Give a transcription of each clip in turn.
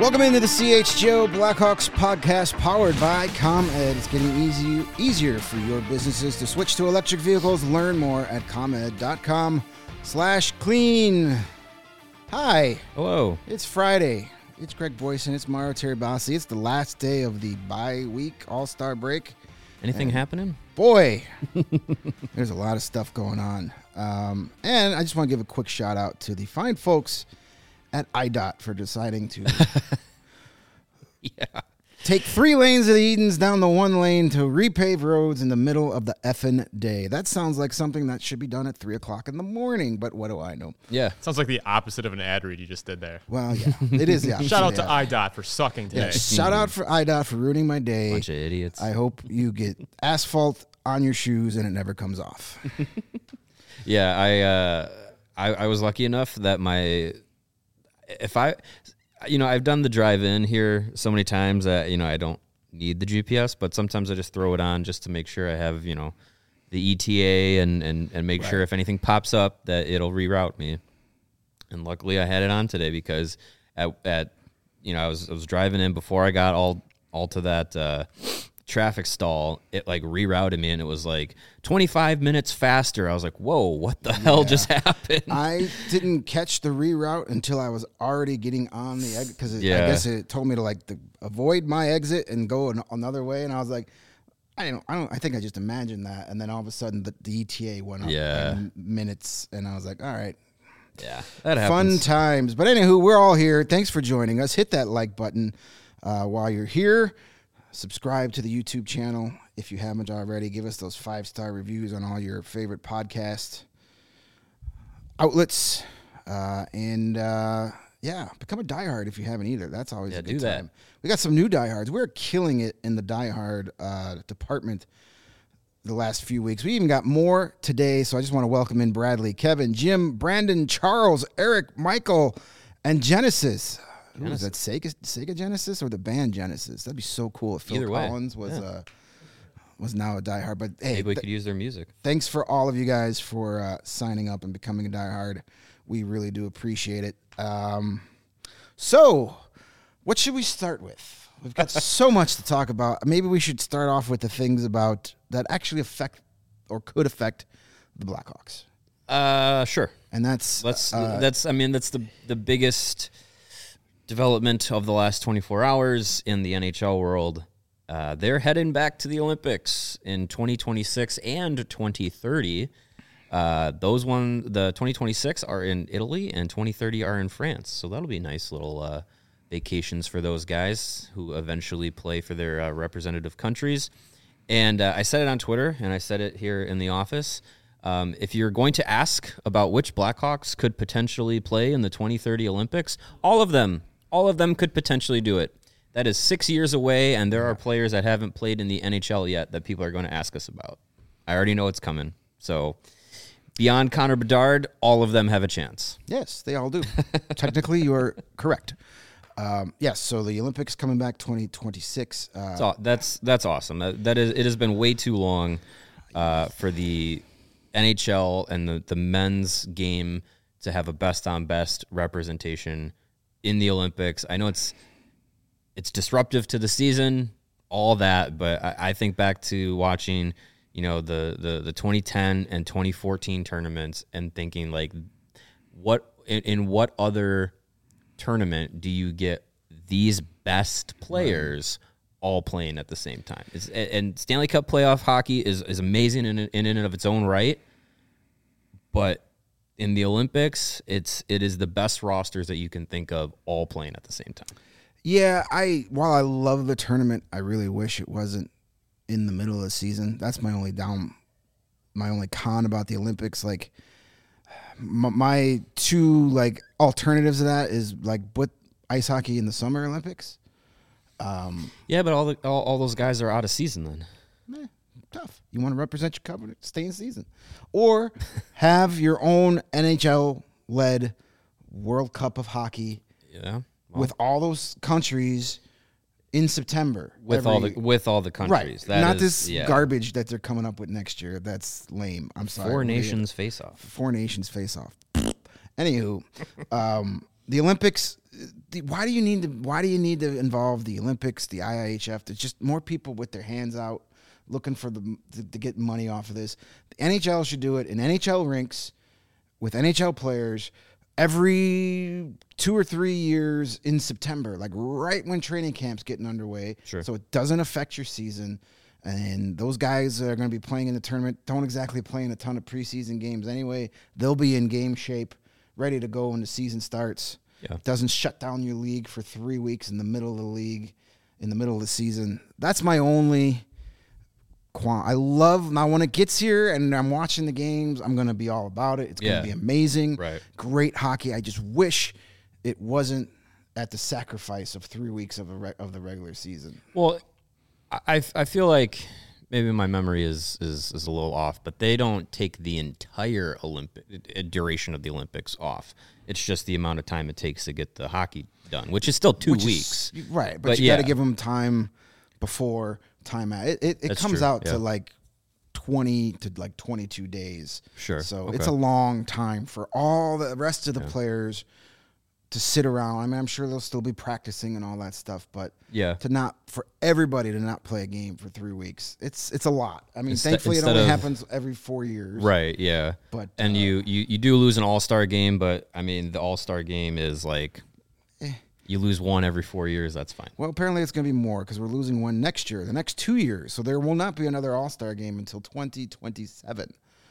Welcome into the CHGO Blackhawks podcast powered by ComEd. It's getting easier for your businesses to switch to electric vehicles. Learn more at comed.com/clean. Hi. Hello. It's Friday. It's Greg Boyson. It's Mario Terabasi. It's the last day of the bye-week All-Star break. Anything happening? Boy, there's a lot of stuff going on. And I just want to give a quick shout out to the fine folks at IDOT for deciding to take 3 lanes of the Edens down the 1 lane to repave roads in the middle of the effing day. That sounds like something that should be done at 3 o'clock in the morning, but what do I know? Yeah. Sounds like the opposite of an ad read you just did there. Well, yeah, it is the opposite. Shout out to IDOT for sucking today. Yeah, shout out for IDOT for ruining my day. Bunch of idiots. I hope you get asphalt on your shoes and it never comes off. Yeah, I was lucky enough that I've done the drive-in here so many times that, I don't need the GPS, but sometimes I just throw it on just to make sure I have, the ETA and make sure if anything pops up that it'll reroute me. And luckily I had it on today because I was driving in before I got all to that traffic stall. It like rerouted me and it was like 25 minutes faster. I was like, whoa, what the hell just happened? I didn't catch the reroute until I was already getting on the exit because I guess it told me to avoid my exit and go another way. And I was like, I think I just imagined that. And then all of a sudden the ETA went up by minutes and I was like, all right. Yeah, that happens. Fun times. But anywho, we're all here. Thanks for joining us. Hit that like button while you're here. Subscribe to the YouTube channel if you haven't already. Give us those 5-star reviews on all your favorite podcast outlets. Become a diehard if you haven't either. That's always a good time. We got some new diehards. We're killing it in the diehard department the last few weeks. We even got more today, so I just want to welcome in Bradley, Kevin, Jim, Brandon, Charles, Eric, Michael, and Genesis. Ooh, is that Sega Genesis or the band Genesis? That'd be so cool if Phil Collins was now a diehard. But hey, maybe we could use their music. Thanks for all of you guys for signing up and becoming a diehard. We really do appreciate it. So, what should we start with? We've got so much to talk about. Maybe we should start off with the things that actually affect or could affect the Blackhawks. Sure. And that's the biggest development of the last 24 hours in the NHL world. They're heading back to the Olympics in 2026 and 2030. The 2026 are in Italy and 2030 are in France. So that'll be nice little vacations for those guys who eventually play for their representative countries. And I said it on Twitter and I said it here in the office. If you're going to ask about which Blackhawks could potentially play in the 2030 Olympics, all of them could potentially do it. That is 6 years away, and there are players that haven't played in the NHL yet that people are going to ask us about. I already know it's coming. So beyond Connor Bedard, all of them have a chance. Yes, they all do. Technically, you are correct. Yes, so the Olympics coming back 2026. That's awesome. It has been way too long for the NHL and the men's game to have a best-on-best representation in the Olympics. I know it's disruptive to the season, all that, but I think back to watching, the 2010 and 2014 tournaments and thinking what other tournament do you get these best players all playing at the same time? And Stanley Cup playoff hockey is amazing in and of its own right, but in the Olympics, it is the best rosters that you can think of all playing at the same time. Yeah, while I love the tournament, I really wish it wasn't in the middle of the season. That's my only con about the Olympics. My two alternatives to that is put ice hockey in the Summer Olympics. But all those guys are out of season then. Tough. You want to represent your company, stay in season. Or have your own NHL-led World Cup of Hockey with all those countries in September. With all the countries. Right. Not this garbage that they're coming up with next year. That's lame. I'm sorry. Four nations face off. Anywho, the Olympics. Why do you need to involve the Olympics, the IIHF? There's just more people with their hands out looking for to get money off of this. The NHL should do it in NHL rinks with NHL players every 2 or 3 years in September, like right when training camp's getting underway. Sure. So it doesn't affect your season. And those guys that are going to be playing in the tournament don't exactly play in a ton of preseason games anyway. They'll be in game shape, ready to go when the season starts. Yeah. It doesn't shut down your league for 3 weeks in the middle of the league, in the middle of the season. That's my only now when it gets here and I'm watching the games, I'm going to be all about it. It's going to be amazing. Right. Great hockey. I just wish it wasn't at the sacrifice of 3 weeks of the regular season. Well, I feel like maybe my memory is a little off, but they don't take the entire duration of the Olympics off. It's just the amount of time it takes to get the hockey done, which is still 2 weeks. Right, but you got to give them time before, time out. It comes out to like 20 to like 22 days. Sure. So it's a long time for all the rest of the players to sit around. I mean, I'm sure they'll still be practicing and all that stuff, but for everybody to not play a game for 3 weeks, it's a lot. I mean, thankfully it only happens every 4 years. Right. Yeah. But and you do lose an All-Star game, but I mean, the All-Star game is like you lose one every 4 years. That's fine. Well, apparently it's going to be more because we're losing one next year, the next 2 years. So there will not be another All-Star game until 2027.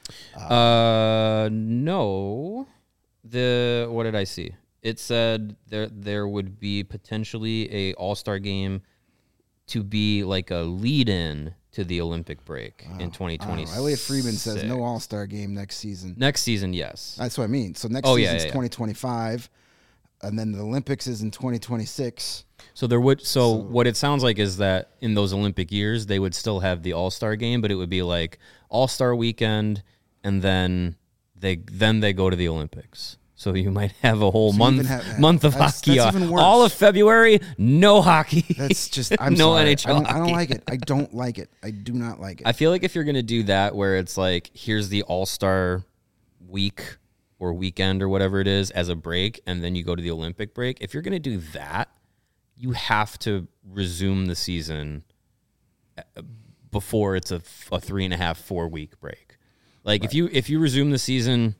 No. What did I see? It said there would be potentially a All-Star game to be like a lead-in to the Olympic break in 2026. Elliot Friedman says no All-Star game next season. Next season, yes. That's what I mean. So next season's 2025, and then the Olympics is in 2026. So there would what it sounds like is that in those Olympic years they would still have the All-Star game, but it would be like All-Star weekend, and then they go to the Olympics. So you might have a whole month of hockey off. All of February, no hockey. That's just I'm no sorry. NHL. I don't like it. I don't like it. I do not like it. I feel like if you're gonna do that, where it's like here's the All-Star week or weekend or whatever it is as a break, and then you go to the Olympic break. If you're gonna do that, you have to resume the season before it's a 3.5, 4 week break. Like if you resume the season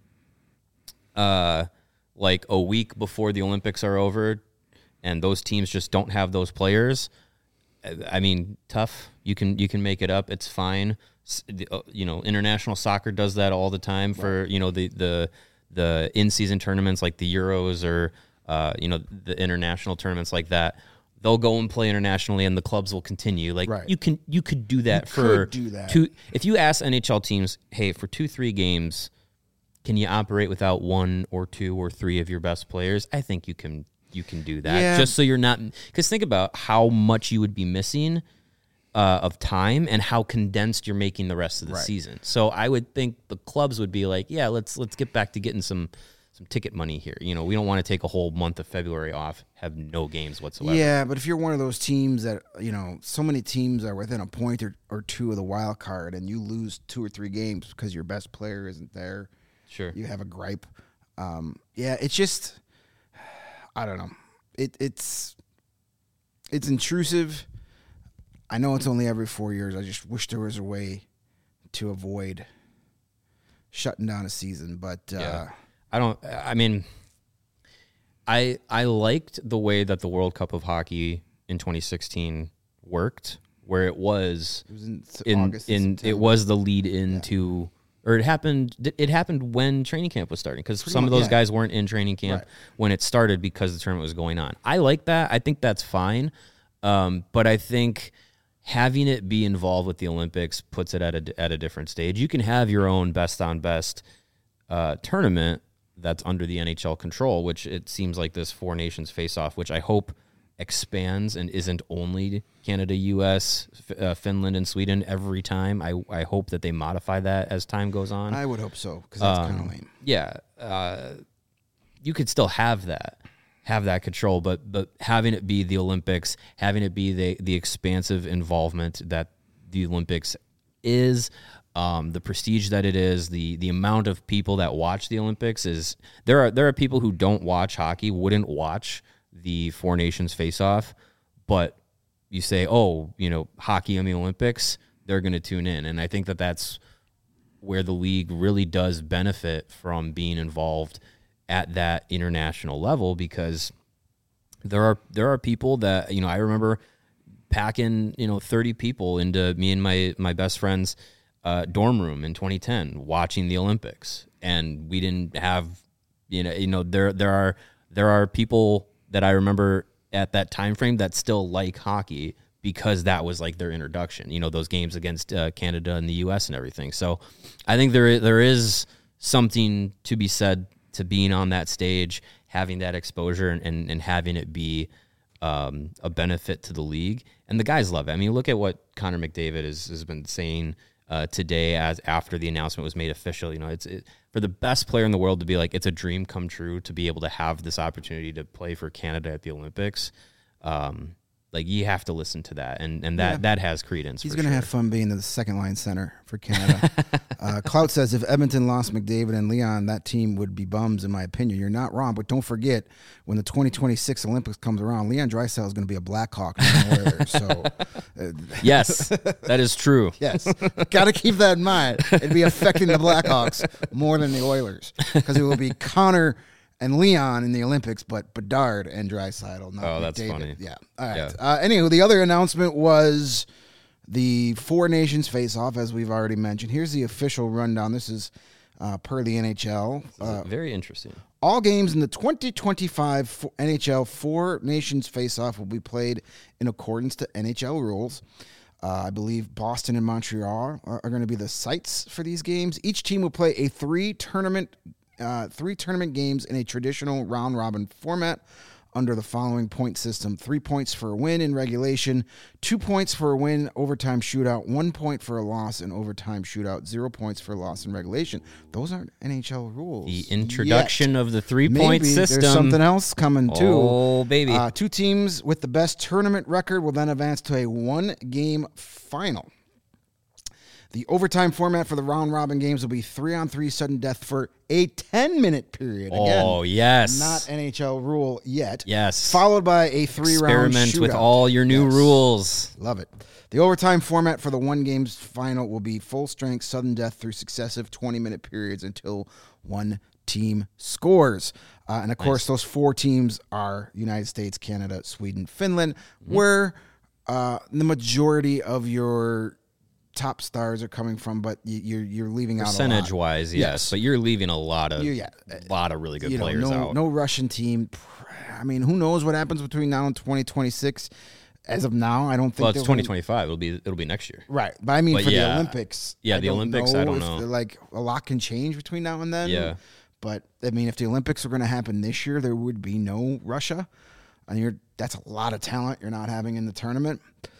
like a week before the Olympics are over and those teams just don't have those players, I mean, tough. You can make it up. It's fine. International soccer does that all the time for, the in-season tournaments like the Euros or, the international tournaments like that. They'll go and play internationally and the clubs will continue. Like you could do that if you ask NHL teams, hey, for 2-3 games, can you operate without 1 or 2 or 3 of your best players? I think you can do that just so you're not, because think about how much you would be missing of time and how condensed you're making the rest of the season. So I would think the clubs would be like, yeah, let's get back to getting some ticket money here. We don't want to take a whole month of February off, have no games whatsoever. Yeah, but if you're one of those teams that, so many teams are within a point or two of the wild card and you lose 2 or 3 games because your best player isn't there, sure, you have a gripe. It's just, I don't know. It's intrusive. I know it's only every 4 years. I just wish there was a way to avoid shutting down a season. But I liked the way that the World Cup of Hockey in 2016 worked, where it was it was the lead into. Or it happened when training camp was starting because some of those guys weren't in training camp when it started because the tournament was going on. I like that. I think that's fine. But I think having it be involved with the Olympics puts it at a different stage. You can have your own best-on-best tournament that's under the NHL control, which it seems like this 4 nations face-off, which I hope expands and isn't only Canada, U.S., Finland, and Sweden every time. I hope that they modify that as time goes on. I would hope so, because that's kind of lame. Yeah. You could still have that control, but having it be the Olympics, having it be the expansive involvement that the Olympics is, the prestige that it is, the amount of people that watch the Olympics is there are people who don't watch hockey, wouldn't watch the Four Nations face-off, but you say, oh, hockey in the Olympics, they're going to tune in. And I think that that's where the league really does benefit from being involved at that international level, because there are people that, I remember packing, 30 people into me and my best friend's dorm room in 2010 watching the Olympics. And we didn't have, there are people that I remember at that time frame that still like hockey because that was like their introduction, those games against Canada and the US and everything. So I think there is something to be said to being on that stage, having that exposure and having it be a benefit to the league. And the guys love it. I mean, look at what Connor McDavid has been saying today as after the announcement was made official. It's for the best player in the world to be like, it's a dream come true to be able to have this opportunity to play for Canada at the Olympics. Like, you have to listen to that, and that has credence. He's going to have fun being the second line center for Canada. Clout says, if Edmonton lost McDavid and Leon, that team would be bums, in my opinion. You're not wrong, but don't forget, when the 2026 Olympics comes around, Leon Draisaitl is going to be a Blackhawk. So, yes, that is true. Yes, got to keep that in mind. It'd be affecting the Blackhawks more than the Oilers, because it will be Connor and Leon in the Olympics, but Bedard and Draisaitl. Oh, that's McDavid. funny. Yeah. All right. Yeah. Anywho, the other announcement was the Four Nations face-off, as we've already mentioned. Here's the official rundown. This is per the NHL. Very interesting. All games in the 2025 NHL Four Nations face-off will be played in accordance to NHL rules. I believe Boston and Montreal are going to be the sites for these games. Each team will play a three tournament games in a traditional round-robin format under the following point system: 3 points for a win in regulation, 2 points for a win overtime shootout, 1 point for a loss in overtime shootout, 0 points for a loss in regulation. Those aren't NHL rules. The introduction of the 3-point system. There's something else coming, too. Oh, baby. 2 teams with the best tournament record will then advance to a 1-game final. The overtime format for the round-robin games will be 3-on-3 sudden death for a 10-minute period. Again, oh, yes. Not NHL rule yet. Yes. Followed by a 3-round shootout. Experiment with all your new rules. Love it. The overtime format for the 1-games final will be full-strength sudden death through successive 20-minute periods until one team scores. And, of course, those 4 teams are United States, Canada, Sweden, Finland, where the majority of your top stars are coming from, but you're leaving out percentage-wise, yes, but you're leaving a lot of really good players out. No Russian team. I mean, who knows what happens between now and 2026? As of now, I don't think. Well, it's 2025. It'll be next year, right? But I mean, for the Olympics, the Olympics, I don't know. Like, a lot can change between now and then. Yeah, but I mean, if the Olympics are going to happen this year, there would be no Russia, and that's a lot of talent you're not having in the tournament.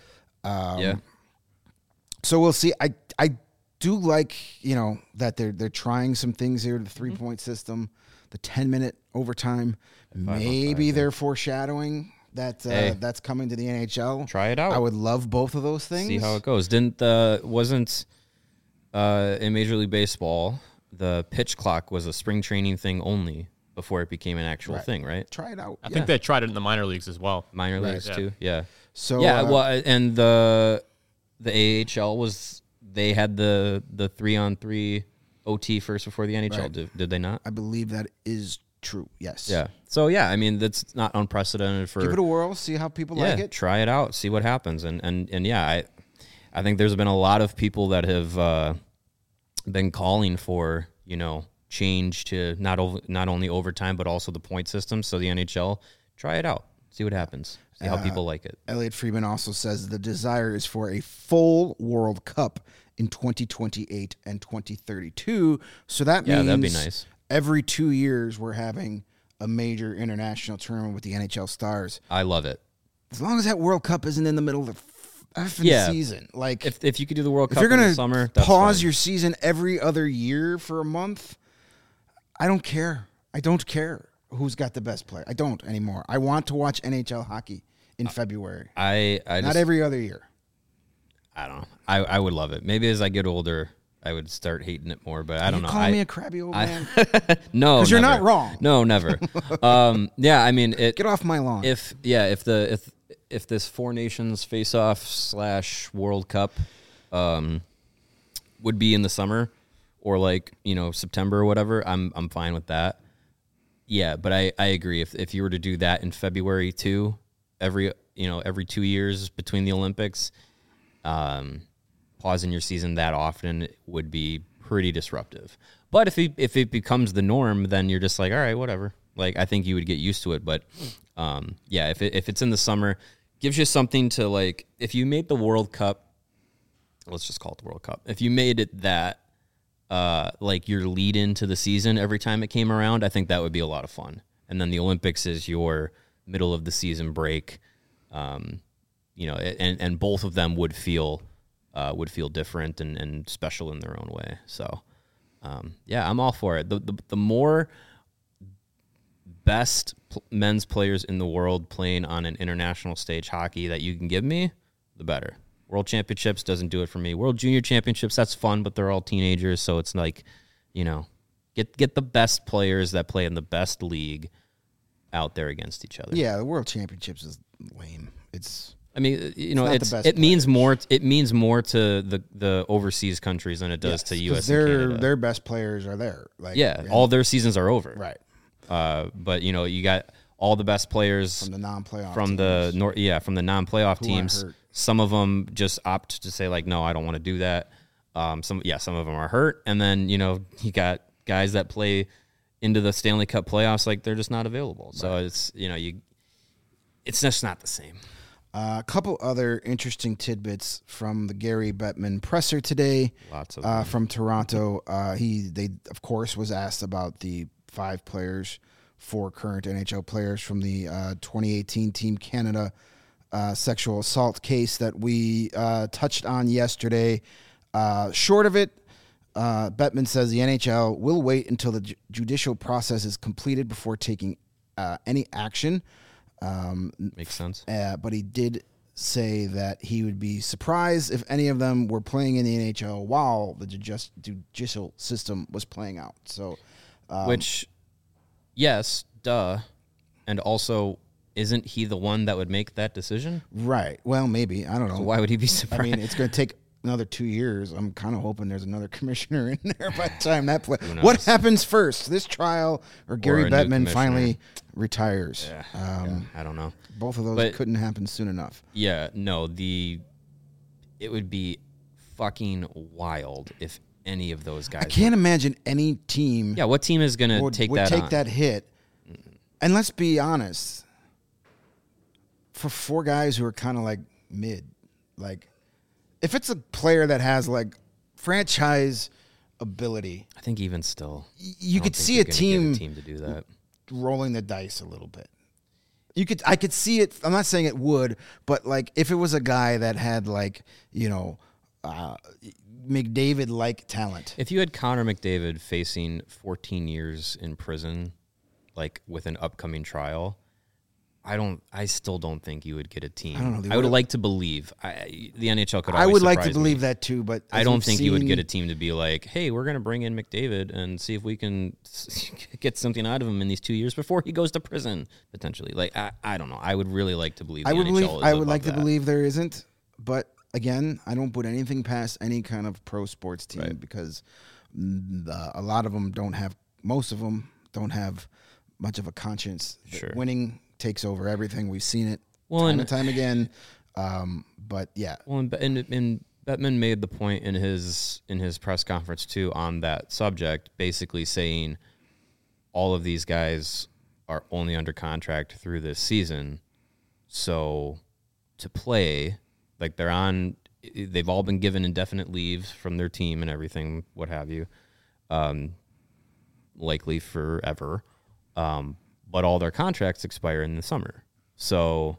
So we'll see. I do like, that they're trying some things here. The 3-point system, the 10-minute overtime. Maybe they're foreshadowing that that's coming to the NHL. Try it out. I would love both of those things. See how it goes. Wasn't in Major League Baseball, the pitch clock was a spring training thing only before it became an actual thing, right? Try it out. I think they tried it in the minor leagues as well. Minor leagues too, yeah. So and the AHL they had the 3-on-3 OT first before the NHL. Right. Did they not? I believe that is true. Yes. Yeah. So I mean, that's not unprecedented for. Give it a whirl. See how people like it. Try it out. See what happens. And I think there's been a lot of people that have been calling for change to not only overtime but also the point system. So the NHL, try it out. See what happens. See how people like it. Elliot Friedman also says the desire is for a full World Cup in 2028 and 2032. So that means that'd be nice. Every 2 years we're having a major international tournament with the NHL stars. I love it. As long as that World Cup isn't in the middle of the season. Like, if you could do the World Cup in the summer, that's pause your season every other year for a month, I don't care. I don't care who's got the best player. I don't anymore. I want to watch NHL hockey in February. I not every other year. I don't know. I would love it. Maybe as I get older, I would start hating it more. But I don't know. You call me a crabby old man? No, because you're not wrong. No, never. Yeah, I mean, get off my lawn. If this Four Nations face-off / World Cup would be in the summer or like, September or whatever, I'm fine with that. Yeah, but I agree. If you were to do that in February too, every 2 years between the Olympics, pausing your season that often would be pretty disruptive. But if it becomes the norm, then you're just like, all right, whatever. Like, I think you would get used to it. But yeah, if it's in the summer, gives you something to like. If you made the World Cup, let's just call it the World Cup. If you made it that like your lead into the season every time it came around, I think that would be a lot of fun. And then the Olympics is your middle of the season break. And both of them would feel different and special in their own way. So, yeah, I'm all for it. The more best men's players in the world playing on an international stage hockey that you can give me, the better. World Championships doesn't do it for me. World Junior Championships, that's fun, but they're all teenagers, so it's like, get the best players that play in the best league out there against each other. Yeah, the World Championships is lame. It means more. It means more to the overseas countries than it does to U.S. and Canada. Their best players are there. All their seasons are over. Right. But you got all the best players from the non-playoff from teams. From the non-playoff teams. Hurt. Some of them just opt to say like, no, I don't want to do that. Some of them are hurt, and then you got guys that play into the Stanley Cup playoffs, like they're just not available. Right. So it's it's just not the same. A couple other interesting tidbits from the Gary Bettman presser today. Lots of them. From Toronto. They of course was asked about the 4 current NHL players from the 2018 Team Canada sexual assault case that we touched on yesterday. Short of it, Bettman says the NHL will wait until the judicial process is completed before taking any action. Makes sense. But he did say that he would be surprised if any of them were playing in the NHL while the judicial system was playing out. So, which, yes, duh, and also, isn't he the one that would make that decision? Right. Well, maybe. I don't know. So why would he be surprised? I mean, it's going to take another 2 years. I'm kind of hoping there's another commissioner in there by the time that play. What happens first, this trial or Gary Bettman finally retires? Yeah, I don't know. Both of those couldn't happen soon enough. Yeah, no. It would be fucking wild if any of those guys. I can't imagine any team. Yeah, what team is going to take that hit? And let's be honest. For 4 guys who are kind of like mid, like if it's a player that has like franchise ability, I think even still, you could see a team to do that, rolling the dice a little bit. I could see it. I'm not saying it would, but like if it was a guy that had like McDavid-like talent. If you had Connor McDavid facing 14 years in prison, like with an upcoming trial. I still don't think you would get a team. I don't know. I would like to believe the NHL could. I would like to believe that too, but I don't think you would get a team to be like, "Hey, we're going to bring in McDavid and see if we can get something out of him in these 2 years before he goes to prison potentially." Like, I don't know. I would really like to believe. I would like to believe there isn't, but again, I don't put anything past any kind of pro sports team because a lot of them don't have. Most of them don't have much of a conscience. Sure. Winning takes over everything. We've seen it time and time again. But yeah. Well, and Bettman made the point in his press conference too on that subject, basically saying all of these guys are only under contract through this season. So to play, like they've all been given indefinite leave from their team and everything, what have you, likely forever. But all their contracts expire in the summer. So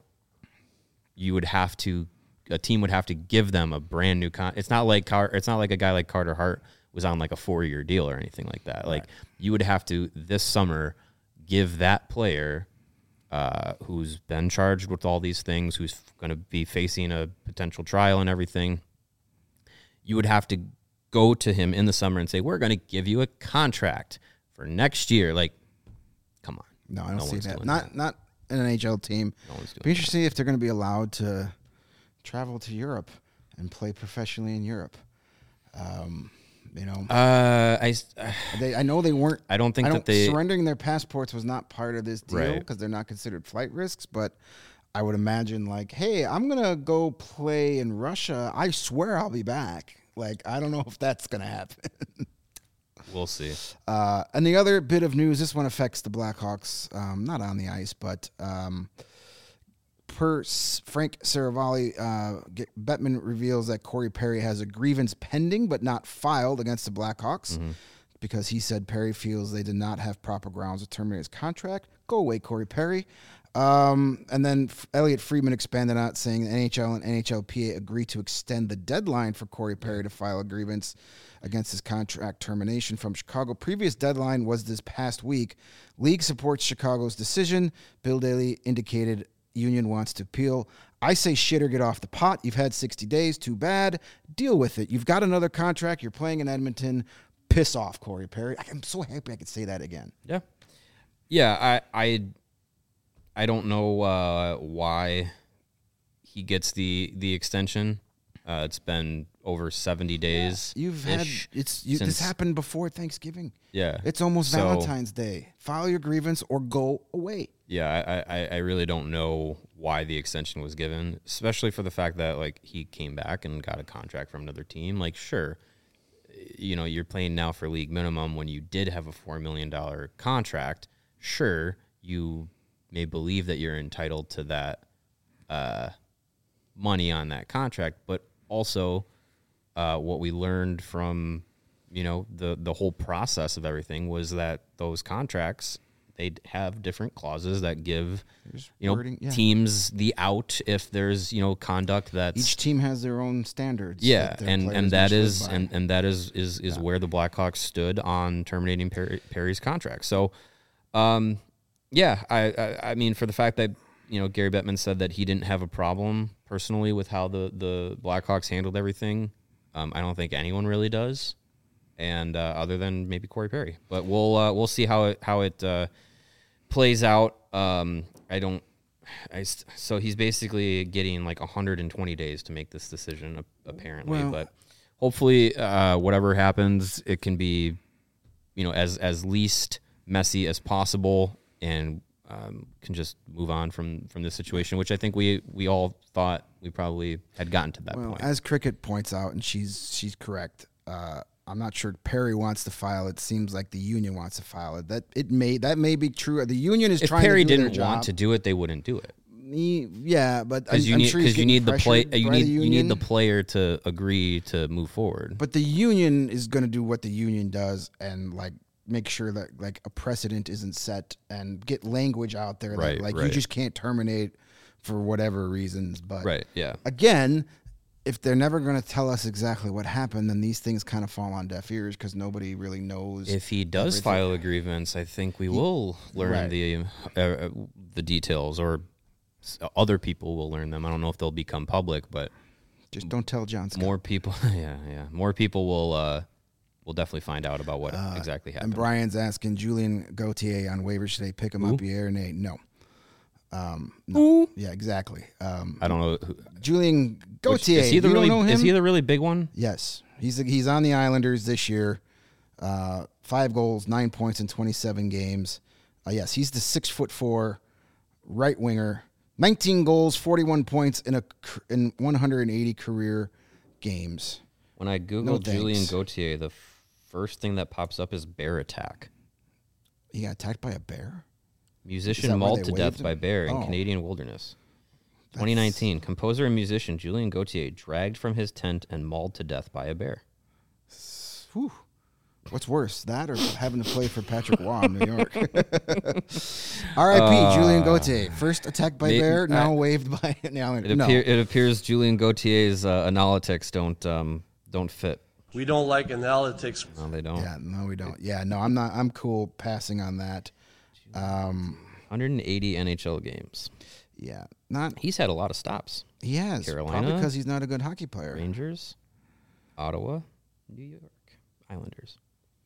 a team would have to give them a brand new it's not like a guy like Carter Hart was on like a 4-year deal or anything like that. Right. Like you would have to this summer give that player who's been charged with all these things, who's going to be facing a potential trial and everything. You would have to go to him in the summer and say, we're going to give you a contract for next year. Like, come on. No, I don't see that. Not an NHL team. No one's doing Be interesting if they're going to be allowed to travel to Europe and play professionally in Europe. You know, I know they weren't. I don't think that they surrendering their passports was not part of this deal because they're not considered flight risks. But I would imagine, like, hey, I'm gonna go play in Russia. I swear I'll be back. Like, I don't know if that's gonna happen. We'll see. And the other bit of news, this one affects the Blackhawks, not on the ice, but per Frank Saravalli, Bettman reveals that Corey Perry has a grievance pending but not filed against the Blackhawks because he said Perry feels they did not have proper grounds to terminate his contract. Go away, Corey Perry. And then Elliot Friedman expanded out, saying the NHL and NHLPA agreed to extend the deadline for Corey Perry to file a grievance against his contract termination from Chicago. Previous deadline was this past week. League supports Chicago's decision. Bill Daly indicated union wants to appeal. I say shit or get off the pot. You've had 60 days. Too bad. Deal with it. You've got another contract. You're playing in Edmonton. Piss off, Corey Perry. I'm so happy I could say that again. Yeah. Yeah, I don't know why he gets the extension. It's been over 70 days. You've had this happened before Thanksgiving. Yeah, it's almost Valentine's Day. File your grievance or go away. Yeah, I really don't know why the extension was given, especially for the fact that like he came back and got a contract from another team. Like, sure, you know, you're playing now for league minimum when you did have a $4 million contract. Sure, you may believe that you're entitled to that money on that contract, but also what we learned from, you know, the whole process of everything was that those contracts, they'd have different clauses that give, you know, teams the out if there's, you know, conduct that's... Each team has their own standards. Yeah, and that is where the Blackhawks stood on terminating Perry's contract. So, yeah, I mean, for the fact that, you know, Gary Bettman said that he didn't have a problem personally with how the Blackhawks handled everything. I don't think anyone really does, and other than maybe Corey Perry. But we'll see how it plays out. So he's basically getting like 120 days to make this decision apparently. Well, but hopefully, whatever happens, it can be, you know, as least messy as possible, and can just move on from this situation, which I think we all thought we probably had gotten to that point. As Cricket points out, and she's correct, I'm not sure Perry wants to file it. Seems like the union wants to file it. That may be true. The union is trying to do their job. If Perry didn't want to do it, they wouldn't do it. Yeah, but because you need the player to agree to move forward. But the union is going to do what the union does, and like make sure that like a precedent isn't set and get language out there that you just can't terminate for whatever reasons. But again, if they're never going to tell us exactly what happened, then these things kind of fall on deaf ears because nobody really knows. If he does file a grievance, I think we will learn the details, or other people will learn them. I don't know if they'll become public, but just don't tell John Scott. More people, more people will definitely find out about what exactly happened. And Brian's asking Julien Gauthier on waivers today. Pick him up, Pierre? No. No. Yeah, exactly. I don't know. Julien Gauthier. Is he the really big one? Yes. He's on the Islanders this year. 5 goals, 9 points in 27 games. Yes, he's the 6'4" right winger. 19 goals, 41 points in 180 career games. When I Google Julien Gauthier, the first thing that pops up is bear attack. He got attacked by a bear? Musician mauled to death by bear in Canadian wilderness. 2019, composer and musician Julien Gauthier dragged from his tent and mauled to death by a bear. Whew. What's worse, that or having to play for Patrick Waugh in New York? R.I.P. Julien Gauthier. First attacked by bear, now waived by an Islander. It appears Julien Gauthier's analytics don't fit. We don't like analytics. No, they don't. Yeah, no, we don't. Yeah, no, I'm not. I'm cool passing on that. 180 NHL games. Yeah, He's had a lot of stops. He has. Carolina, probably because he's not a good hockey player. Rangers, Ottawa. New York Islanders.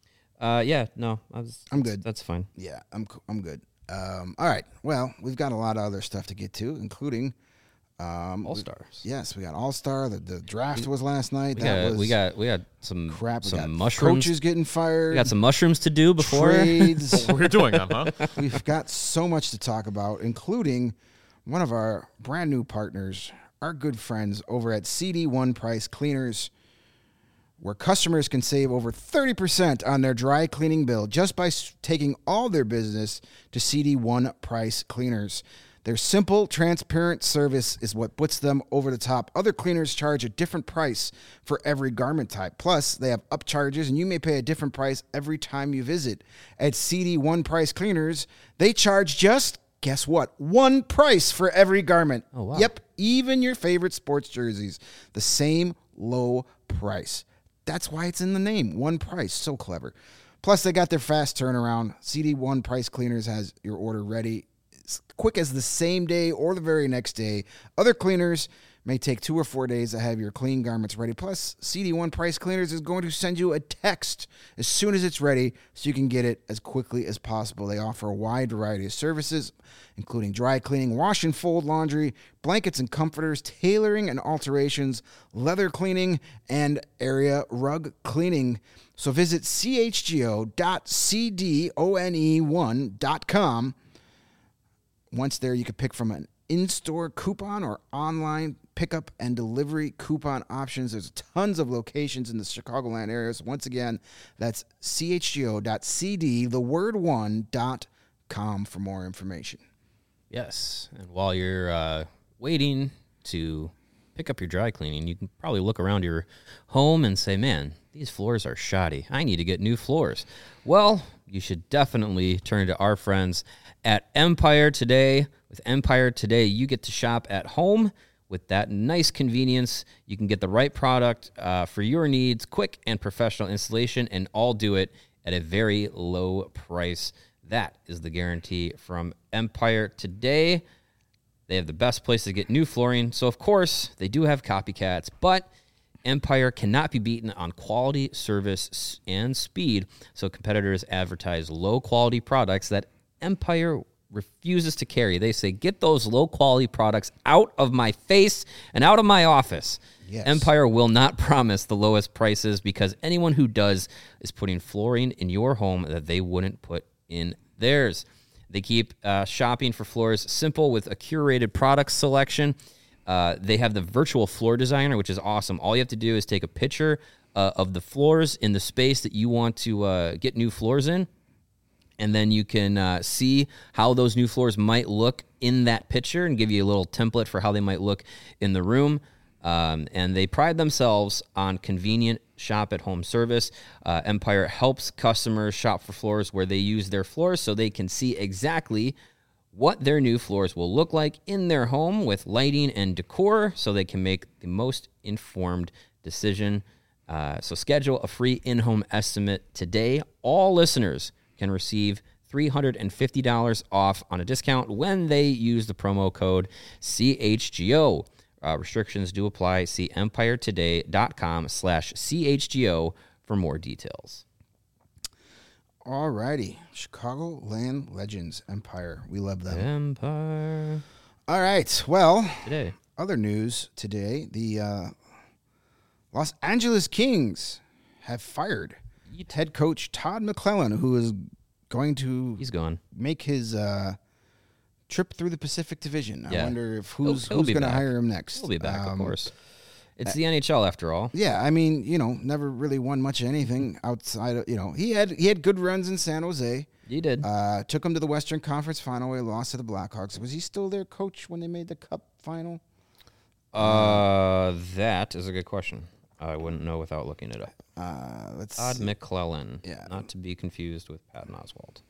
I'm good. That's fine. Yeah, I'm good. All right. Well, we've got a lot of other stuff to get to, including All-Stars. Yes, we got All-Star. The draft was last night. We got some crap. We got mushrooms. Coaches getting fired. We got some mushrooms to do before trades. We're doing them, huh? We've got so much to talk about, including one of our brand new partners, our good friends over at CD1 Price Cleaners, where customers can save over 30% on their dry cleaning bill just by taking all their business to CD1 Price Cleaners. Their simple, transparent service is what puts them over the top. Other cleaners charge a different price for every garment type. Plus, they have upcharges, and you may pay a different price every time you visit. At CD1 Price Cleaners, they charge just, guess what, one price for every garment. Oh, wow. Yep, even your favorite sports jerseys. The same low price. That's why it's in the name. One price. So clever. Plus, they got their fast turnaround. CD1 Price Cleaners has your order ready as quick as the same day or the very next day. Other cleaners may take 2 or 4 days to have your clean garments ready. Plus, CD1 Price Cleaners is going to send you a text as soon as it's ready so you can get it as quickly as possible. They offer a wide variety of services, including dry cleaning, wash and fold laundry, blankets and comforters, tailoring and alterations, leather cleaning, and area rug cleaning. So visit chgo.cdone1.com. Once there, you can pick from an in-store coupon or online pickup and delivery coupon options. There's tons of locations in the Chicagoland area. So once again, that's chgo.cd1.com for more information. Yes, and while you're waiting to pick up your dry cleaning, you can probably look around your home and say, man, these floors are shoddy. I need to get new floors. Well, you should definitely turn to our friends at Empire Today. With Empire Today, you get to shop at home with that nice convenience. You can get the right product for your needs, quick and professional installation, and all do it at a very low price. That is the guarantee from Empire Today. They have the best place to get new flooring. So, of course, they do have copycats, but Empire cannot be beaten on quality, service, and speed. So competitors advertise low-quality products that Empire refuses to carry. They say, get those low-quality products out of my face and out of my office. Yes. Empire will not promise the lowest prices because anyone who does is putting flooring in your home that they wouldn't put in theirs. They keep shopping for floors simple with a curated product selection. They have the virtual floor designer, which is awesome. All you have to do is take a picture of the floors in the space that you want to get new floors in, and then you can see how those new floors might look in that picture and give you a little template for how they might look in the room. And they pride themselves on convenient shop-at-home service. Empire helps customers shop for floors where they use their floors so they can see exactly what their new floors will look like in their home with lighting and decor so they can make the most informed decision. So schedule a free in-home estimate today. All listeners can receive $350 off on a discount when they use the promo code CHGO. Restrictions do apply. See empiretoday.com/CHGO for more details. All righty. Chicagoland Legends, Empire. We love them. Empire. All right. Well, Today. Other news today, the Los Angeles Kings have fired head coach Todd McClellan, who is going to He's gone. make his trip through the Pacific Division. Yeah. I wonder if who's He'll be going to back. hire him next. He'll be back, of course. It's the NHL after all. Yeah, I mean, never really won much of anything outside of, he had good runs in San Jose. He did. Took him to the Western Conference Final where he lost to the Blackhawks. Was he still their coach when they made the Cup final? That is a good question. I wouldn't know without looking it up. Todd McClellan. Yeah. Not to be confused with Patton Oswalt.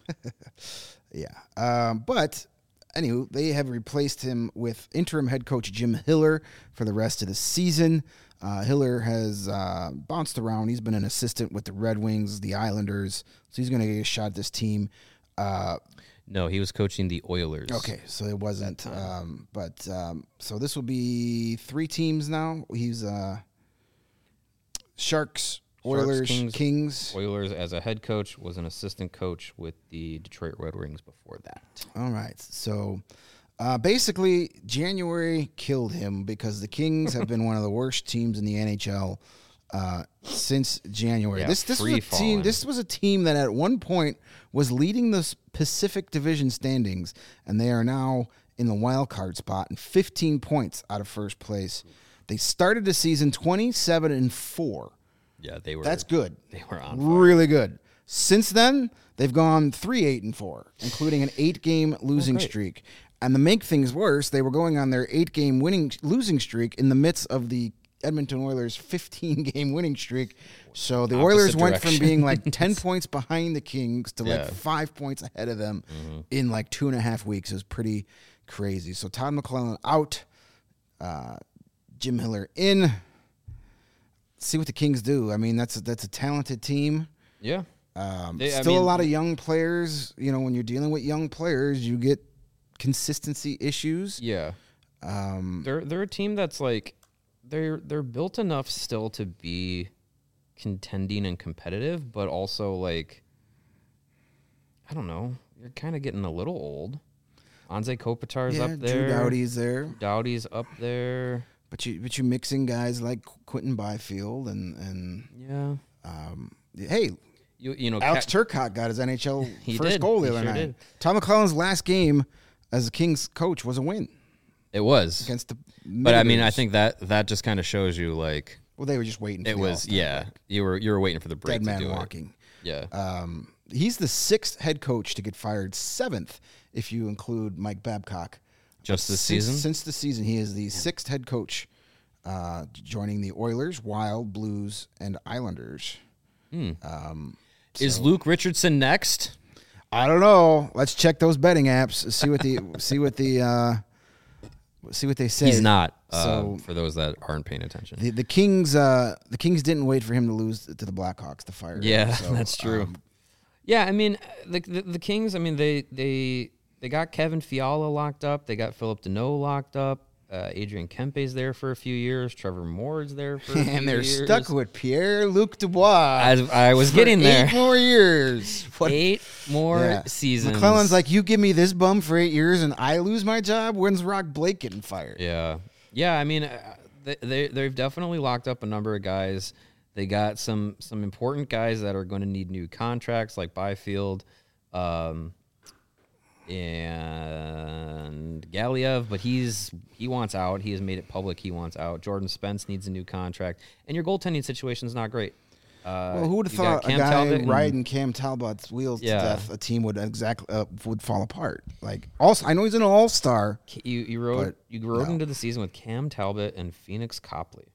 Yeah. But anywho, they have replaced him with interim head coach Jim Hiller for the rest of the season. Hiller has bounced around. He's been an assistant with the Red Wings, the Islanders, so he's going to get a shot at this team. No, he was coaching the Oilers. Okay, so it wasn't. So this will be 3 teams now. He's Sharks, Oilers, Kings. Oilers as a head coach, was an assistant coach with the Detroit Red Wings before that. All right. So basically, January killed him because the Kings have been one of the worst teams in the NHL since January. Yeah, This was a team that at one point was leading the Pacific Division standings, and they are now in the wild card spot and 15 points out of first place. They started the season 27-4. Yeah, they were. That's good. They were on fire. Really good. Since then, they've gone 3-8-4, including an 8-game losing streak. And to make things worse, they were going on their 8-game losing streak in the midst of the Edmonton Oilers' 15-game winning streak. So the Oilers went from being like 10 points behind the Kings to like 5 points ahead of them in like 2.5 weeks. It was pretty crazy. So Todd McLellan out, Jim Miller in. See what the Kings do. I mean, that's a talented team. Yeah. A lot of young players. You know, when you're dealing with young players, you get consistency issues. Yeah. They're a team that's like they're built enough still to be contending and competitive, but also like I don't know, you're kind of getting a little old. Anze Kopitar's up there. Drew Doughty's there. Doughty's up there. But you're mixing guys like Quentin Byfield and hey, you know Alex Turcotte got his NHL first did. goal the other night. Did. Tom McClellan's last game as a Kings coach was a win. It was against the. But I mean, I think that just kind of shows you like. Well, they were just waiting. It was You were waiting for the break. Dead man to do walking. It. Yeah. He's the 6th head coach to get fired, 7th if you include Mike Babcock. Just this season? Since the season, he is the 6th head coach, joining the Oilers, Wild, Blues, and Islanders. Is Luke Richardson next? I don't know. Let's check those betting apps. See what they say. He's not. So for those that aren't paying attention, the Kings didn't wait for him to lose to the Blackhawks to fire him. Yeah, so, that's true. Yeah, I mean the Kings. I mean they got Kevin Fiala locked up. They got Philip Deneau locked up. Adrian Kempe's there for a few years. Trevor Moore's there for a few years. And they're stuck with Pierre-Luc Dubois. I was getting there. 8 more years. 8 more seasons. McClellan's like, you give me this bum for 8 years and I lose my job? When's Rock Blake getting fired? Yeah. Yeah, I mean, they've definitely locked up a number of guys. They got some important guys that are going to need new contracts, like Byfield. And Galiev, but he wants out. He has made it public he wants out. Jordan Spence needs a new contract, and your goaltending situation is not great. Well, who would have thought a guy riding Cam Talbot's wheels to death, a team would would fall apart? Like, also, I know he's an all-star. You rode into the season with Cam Talbot and Phoenix Copley.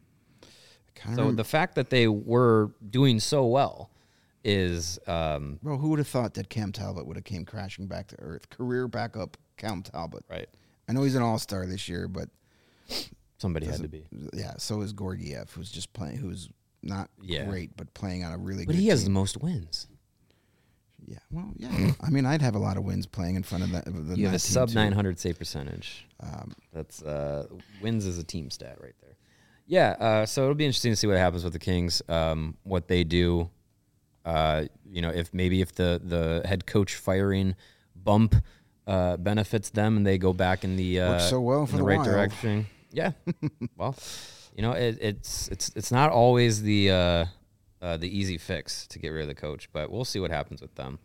So the fact that they were doing so well is bro, who would have thought that Cam Talbot would have came crashing back to earth? Career backup Cam Talbot. Right. I know he's an all-star this year, but somebody had to be. Yeah, so is Gordiev, who's just playing, who's not great, but playing on a really good But he has team. the most wins. Yeah, well, yeah. I mean, I'd have a lot of wins playing in front of the You have a sub too. 900 save percentage. That's wins is a team stat right there. Yeah, so it'll be interesting to see what happens with the Kings, what they do. If the head coach firing bump benefits them and they go back in the works so well for the right direction. Yeah. Well, it's not always the easy fix to get rid of the coach, but we'll see what happens with them.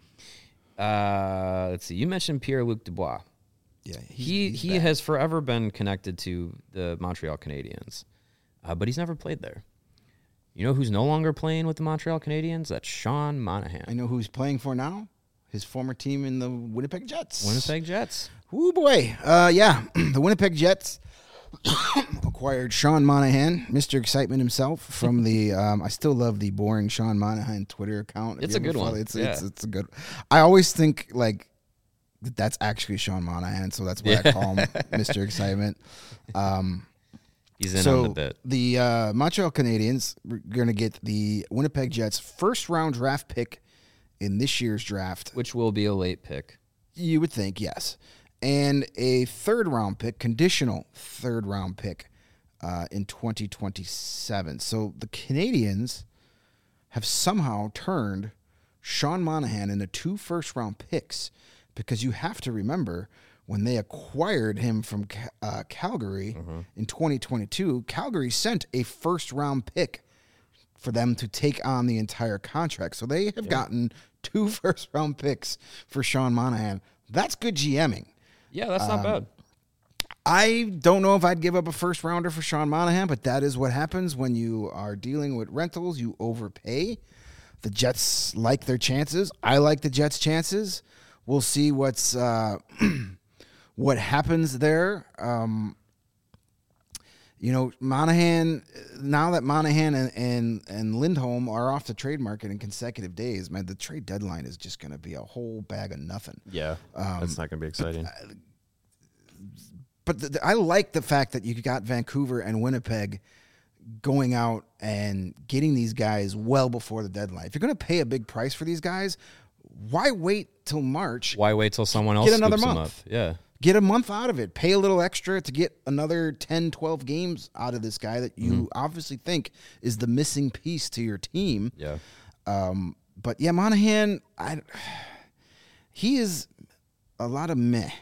Let's see. You mentioned Pierre-Luc Dubois. Yeah, he has forever been connected to the Montreal Canadiens, but he's never played there. You know who's no longer playing with the Montreal Canadiens? That's Sean Monahan. I know who he's playing for now. His former team in the Winnipeg Jets. Winnipeg Jets. Ooh, boy. The Winnipeg Jets acquired Sean Monahan, Mr. Excitement himself, from the I still love the boring Sean Monahan Twitter account. It's a good one. It's a good. I always think like that's actually Sean Monahan, so that's why I call him Mr. Excitement. He's in on the bit. The Montreal Canadiens are going to get the Winnipeg Jets' first-round draft pick in this year's draft. Which will be a late pick. You would think, yes. And a third-round pick, conditional third-round pick in 2027. So the Canadiens have somehow turned Sean Monahan into 2 first-round picks, because you have to remember when they acquired him from Calgary in 2022, Calgary sent a first-round pick for them to take on the entire contract. So they have gotten 2 first-round picks for Sean Monahan. That's good GMing. Yeah, that's not bad. I don't know if I'd give up a first-rounder for Sean Monahan, but that is what happens when you are dealing with rentals. You overpay. The Jets like their chances. I like the Jets' chances. We'll see what's what happens there. Monahan, now that Monahan and Lindholm are off the trade market in consecutive days, man, the trade deadline is just going to be a whole bag of nothing. Yeah, that's not going to be exciting. But I like the fact that you got Vancouver and Winnipeg going out and getting these guys well before the deadline. If you're going to pay a big price for these guys, why wait till March? Why wait till someone else get another scoops month? Them up? Yeah. Get a month out of it. Pay a little extra to get another 10, 12 games out of this guy that you obviously think is the missing piece to your team. Yeah. But yeah, Monahan, he is a lot of meh.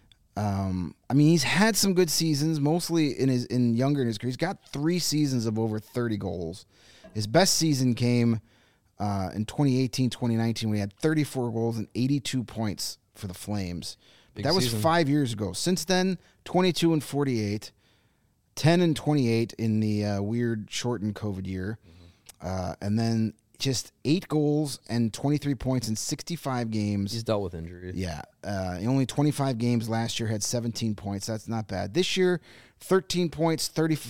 He's had some good seasons, mostly younger in his career. He's got 3 seasons of over 30 goals. His best season came in 2018, 2019, when he had 34 goals and 82 points for the Flames. That was 5 years ago. Since then, 22 and 48, 10 and 28 in the weird shortened COVID year, and then just 8 goals and 23 points in 65 games. He's dealt with injuries. Yeah. Only 25 games last year, had 17 points. That's not bad. This year, 13 goals,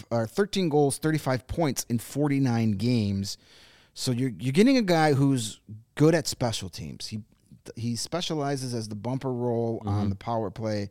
35 points in 49 games. So you're getting a guy who's good at special teams. He specializes as the bumper role on the power play.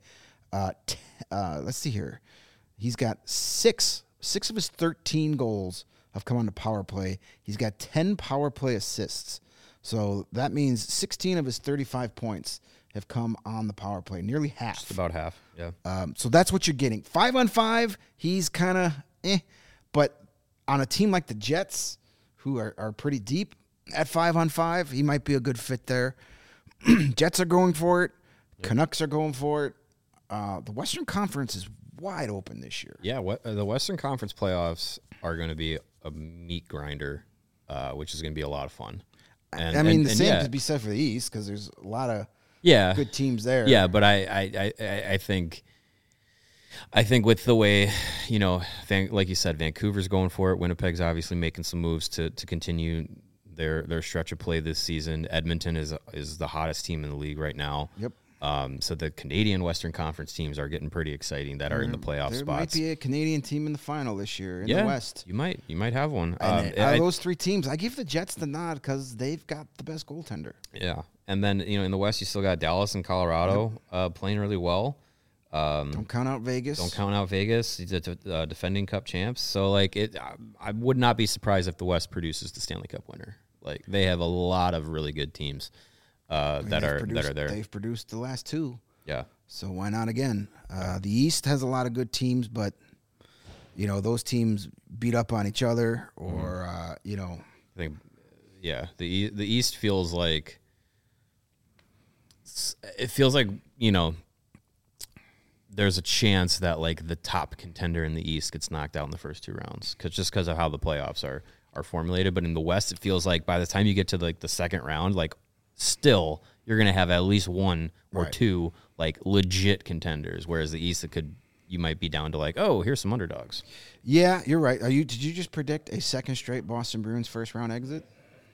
Let's see here. He's got 6 of his 13 goals have come on the power play. He's got 10 power play assists. So that means 16 of his 35 points have come on the power play, nearly half. Just about half, yeah. So that's what you're getting. 5-on-5, he's kind of but on a team like the Jets, who are pretty deep at 5-on-5, he might be a good fit there. Jets are going for it. Yep. Canucks are going for it. The Western Conference is wide open this year. Yeah, the Western Conference playoffs are going to be a meat grinder, which is going to be a lot of fun. And the same could be said for the East, because there's a lot of good teams there. Yeah, but I think with the way, like you said, Vancouver's going for it. Winnipeg's obviously making some moves to continue their stretch of play this season. Edmonton is the hottest team in the league right now. Yep. So the Canadian Western Conference teams are getting pretty exciting that are in the playoff spots. There might be a Canadian team in the final this year in the West. You might have one. Out of those 3 teams, I give the Jets the nod because they've got the best goaltender. Yeah, and then in the West, you still got Dallas and Colorado playing really well. Don't count out Vegas. He's the defending Cup champs. So I would not be surprised if the West produces the Stanley Cup winner. They have a lot of really good teams that are there. They've produced the last 2. Yeah. So why not again? The East has a lot of good teams, but those teams beat up on each other, or I think, the East feels like there's a chance that the top contender in the East gets knocked out in the first 2 rounds because of how the playoffs are formulated. But in the West, it feels like by the time you get to the second round, still you're going to have at least 1 or 2 legit contenders, whereas the East you might be down to here's some underdogs. Yeah, you're right. Did you just predict a second straight Boston Bruins first round exit?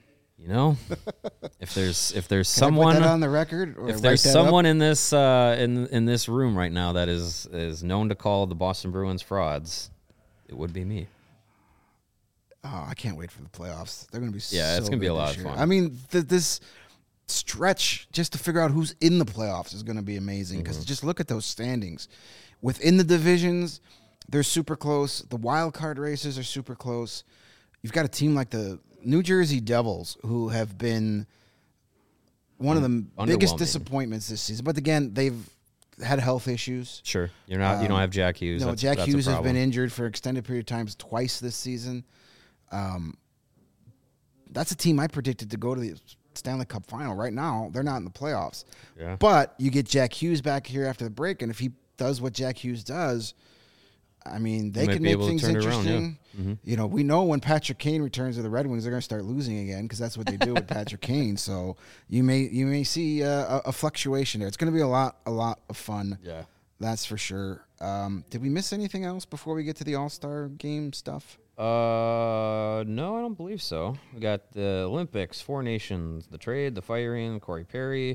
If there's Can someone I put that on the record, or if there's someone in this in this room right now that is known to call the Boston Bruins frauds, it would be me. Oh, I can't wait for the playoffs. They're going to be it's going to be a lot of fun. I mean, this stretch just to figure out who's in the playoffs is going to be amazing, because just look at those standings. Within the divisions, they're super close. The wild card races are super close. You've got a team like the New Jersey Devils, who have been one of the biggest disappointments this season. But again, they've had health issues. Sure. You don't have Jack Hughes. No, Jack Hughes has been injured for an extended period of time twice this season. that's a team I predicted to go to the Stanley Cup final. Right now, they're not in the playoffs. Yeah. But you get Jack Hughes back here after the break, and if he does what Jack Hughes does, I mean, they can make things interesting. You know, we know when Patrick Kane returns to the Red Wings, they're going to start losing again because that's what they do with Patrick Kane. So you may see a fluctuation there. It's going to be a lot of fun. Yeah, that's for sure. Did we miss anything else before we get to the All-Star game stuff? No, I don't believe so. We got the Olympics, 4 nations, the trade, the firing, Corey Perry.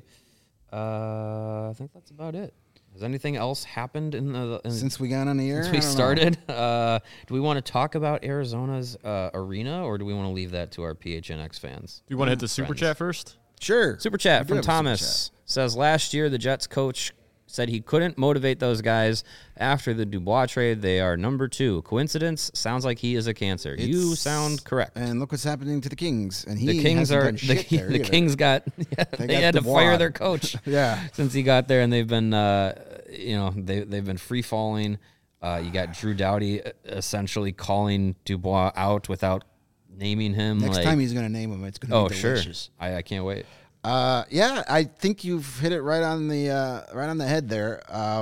I think that's about it. Has anything else happened since we got on the air? Since we started? Do we want to talk about Arizona's arena, or do we want to leave that to our PHNX fans? Do you want to hit the super chat first? Sure. Super chat from Thomas says, last year the Jets coach said he couldn't motivate those guys after the Dubois trade. They are number 2. Coincidence? Sounds like he is a cancer. You sound correct. And look what's happening to the Kings. And the Kings are the Kings got they had to fire their coach. Since he got there, and they've been they've been free falling. You got Drew Doughty essentially calling Dubois out without naming him. Next time he's going to name him, it's going to be delicious. Sure. I can't wait. I think you've hit it right on the head there.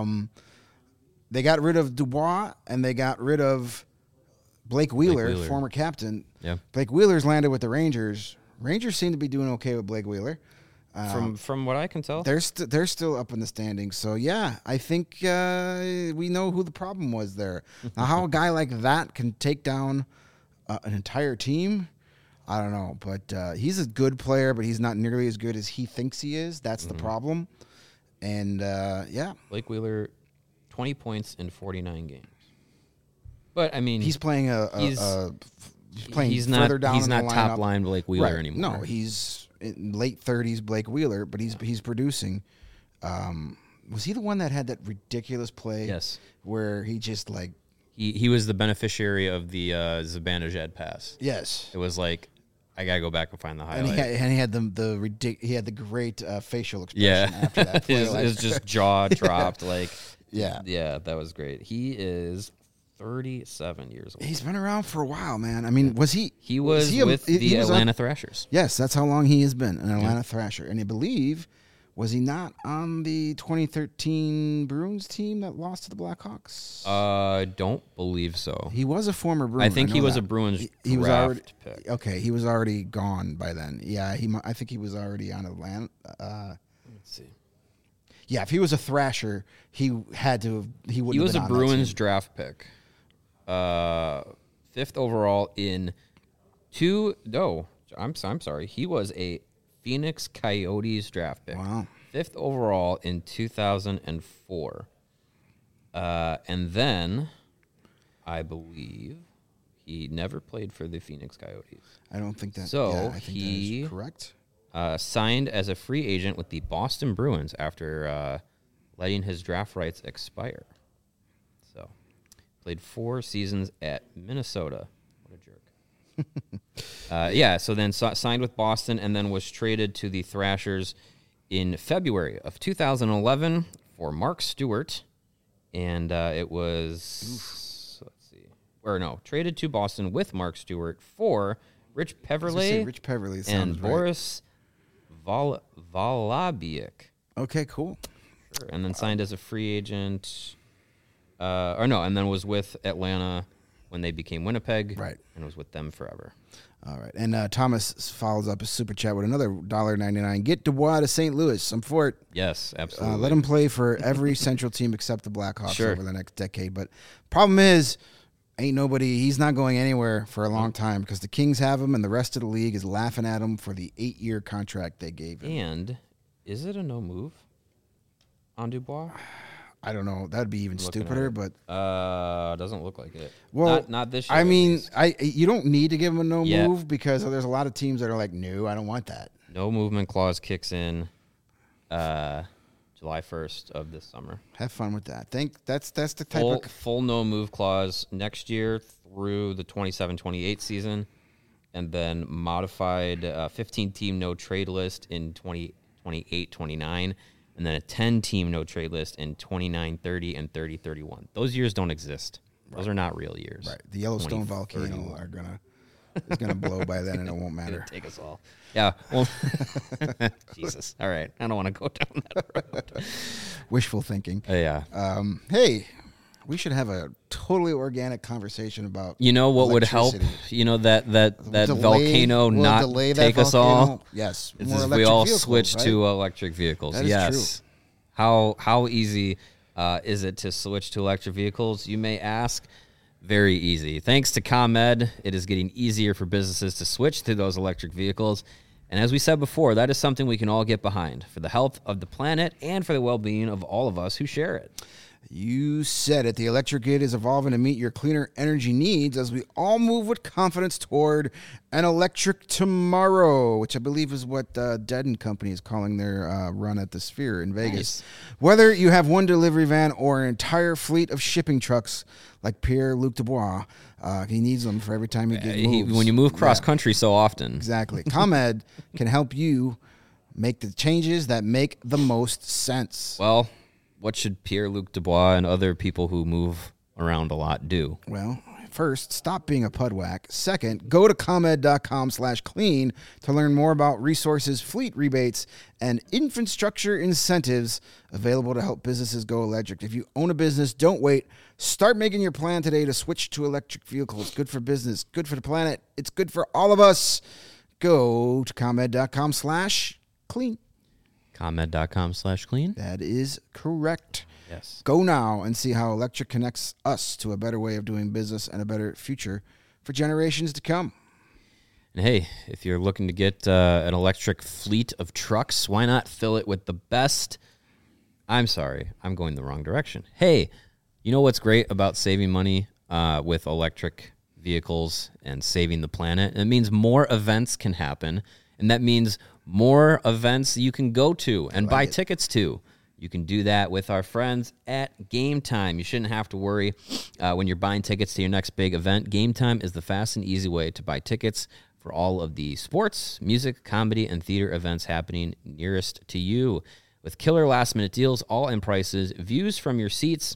They got rid of Dubois and they got rid of Blake Wheeler, former captain. Yeah. Blake Wheeler's landed with the Rangers. Rangers seem to be doing okay with Blake Wheeler. From what I can tell, they're still up in the standings. So yeah, I think we know who the problem was there. Now, how a guy like that can take down an entire team, I don't know, but he's a good player, but he's not nearly as good as he thinks he is. That's the problem. And, Blake Wheeler, 20 points in 49 games. But, I mean... He's playing he's further down he's in not the top lineup. line Blake Wheeler anymore. No, he's in late 30s Blake Wheeler, but he's producing. Was he the one that had that ridiculous play? Yes. Where he just, like... He was the beneficiary of the Zibanejad pass. Yes. It was like... I gotta go back and find the highlight. And he had the great facial expression after that play. His just jaw dropped. Yeah, that was great. He is 37 years old. He's been around for a while, man. I mean, was he? He was with the Atlanta Thrashers. Yes, that's how long he has been an Atlanta Thrasher, and I believe. Was he not on the 2013 Bruins team that lost to the Blackhawks? I don't believe so. He was a former Bruin. I think he was a Bruins he was draft already, pick. Okay, he was already gone by then. Yeah, I think he was already on Atlanta. Let's see. Yeah, if he was a Thrasher, he wouldn't have been on that team. He was a Bruins draft pick. 5th overall in I'm sorry. He was a Phoenix Coyotes draft pick. Wow. 5th overall in 2004. And then, I believe, he never played for the Phoenix Coyotes. I don't think that. So I think he that is correct. Signed as a free agent with the Boston Bruins after letting his draft rights expire. So, played 4 seasons at Minnesota. What a jerk. So then signed with Boston and then was traded to the Thrashers in February of 2011 for Mark Stewart. And it was, traded to Boston with Mark Stewart for Rich Peverley and Boris Valabiak. Okay, cool. Sure. And then signed as a free agent. And then was with Atlanta when they became Winnipeg. Right. And was with them forever. All right. And Thomas follows up his super chat with another $1.99. Get Dubois to St. Louis. I'm for it. Yes, absolutely. Let him play for every Central team except the Blackhawks over the next decade. But problem is, he's not going anywhere for a long time because the Kings have him and the rest of the league is laughing at him for the 8-year contract they gave him. And is it a no move on Dubois? I don't know. That'd be even stupider, but doesn't look like it. Well, not this year. I mean, you don't need to give him a no move because there's a lot of teams that are like, no, I don't want that. No movement clause kicks in July 1st of this summer. Have fun with that. That's the type of full no move clause next year through the 27-28 season, and then modified 15-team no trade list in 28-29. And then a 10-team no-trade list in 29-30 and 30-31. Those years don't exist. Those are not real years. Right. The Yellowstone volcano are going to is going to blow by then, and it won't matter. Take us all. Yeah. Well, Jesus. All right. I don't want to go down that road. Wishful thinking. Yeah. Hey, we should have a totally organic conversation about. You know what would help? You know that volcano not take us all. Yes. Is we all switch to electric vehicles. That is true. How easy is it to switch to electric vehicles? You may ask. Very easy. Thanks to ComEd, it is getting easier for businesses to switch to those electric vehicles. And as we said before, that is something we can all get behind for the health of the planet and for the well-being of all of us who share it. You said it. The electric grid is evolving to meet your cleaner energy needs as we all move with confidence toward an electric tomorrow, which I believe is what Dead & Company is calling their run at the Sphere in Vegas. Nice. Whether you have one delivery van or an entire fleet of shipping trucks like Pierre-Luc Dubois, he needs them for every time he moves. When you move cross-country so often. Exactly. ComEd can help you make the changes that make the most sense. Well, what should Pierre-Luc Dubois and other people who move around a lot do? Well, first, stop being a pudwhack. Second, go to ComEd.com/clean to learn more about resources, fleet rebates, and infrastructure incentives available to help businesses go electric. If you own a business, don't wait. Start making your plan today to switch to electric vehicles. Good for business, good for the planet. It's good for all of us. Go to ComEd.com/clean. ComEd.com/clean? That is correct. Yes. Go now and see how electric connects us to a better way of doing business and a better future for generations to come. And hey, if you're looking to get an electric fleet of trucks, why not fill it with the best? I'm sorry, I'm going the wrong direction. Hey, you know what's great about saving money with electric vehicles and saving the planet? It means more events can happen, and that means more events you can go to and buy tickets to. You can do that with our friends at Game Time. You shouldn't have to worry when you're buying tickets to your next big event. Game Time is the fast and easy way to buy tickets for all of the sports, music, comedy, and theater events happening nearest to you. With killer last-minute deals, all-in prices, views from your seats,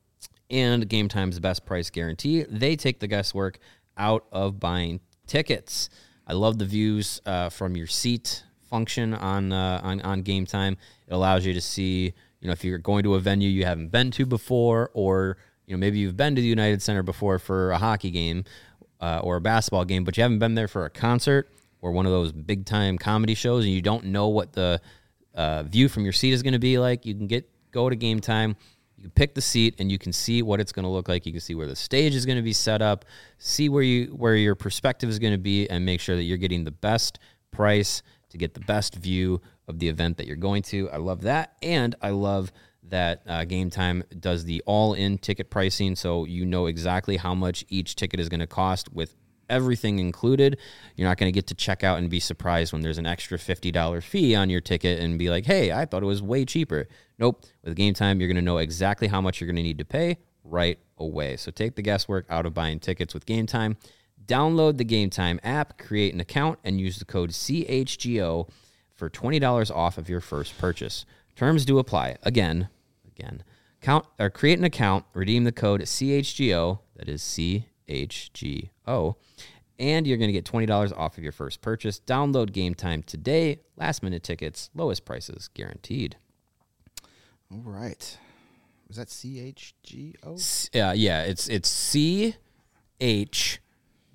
and Game Time's best price guarantee, they take the guesswork out of buying tickets. I love the views from your seat function on Game Time. It allows you to see, if you're going to a venue you haven't been to before, or maybe you've been to the United Center before for a hockey game or a basketball game, but you haven't been there for a concert or one of those big time comedy shows, and you don't know what the view from your seat is going to be like. You can go to Game Time. You can pick the seat, and you can see what it's going to look like. You can see where the stage is going to be set up, see where your perspective is going to be, and make sure that you're getting the best price to get the best view of the event that you're going to. I love that, and I love that Game Time does the all-in ticket pricing, so you know exactly how much each ticket is going to cost with everything included. You're not going to get to check out and be surprised when there's an extra $50 fee on your ticket and be like, hey, I thought it was way cheaper. Nope. With Game Time, you're going to know exactly how much you're going to need to pay right away. So take the guesswork out of buying tickets with Game Time. Download the Game Time app, create an account, and use the code CHGO for $20 off of your first purchase. Terms do apply. Again, create an account, redeem the code CHGO, that is CHGO, and you're going to get $20 off of your first purchase. Download Game Time today. Last-minute tickets, lowest prices guaranteed. All right. Was that CHGO? Yeah, it's CHGO.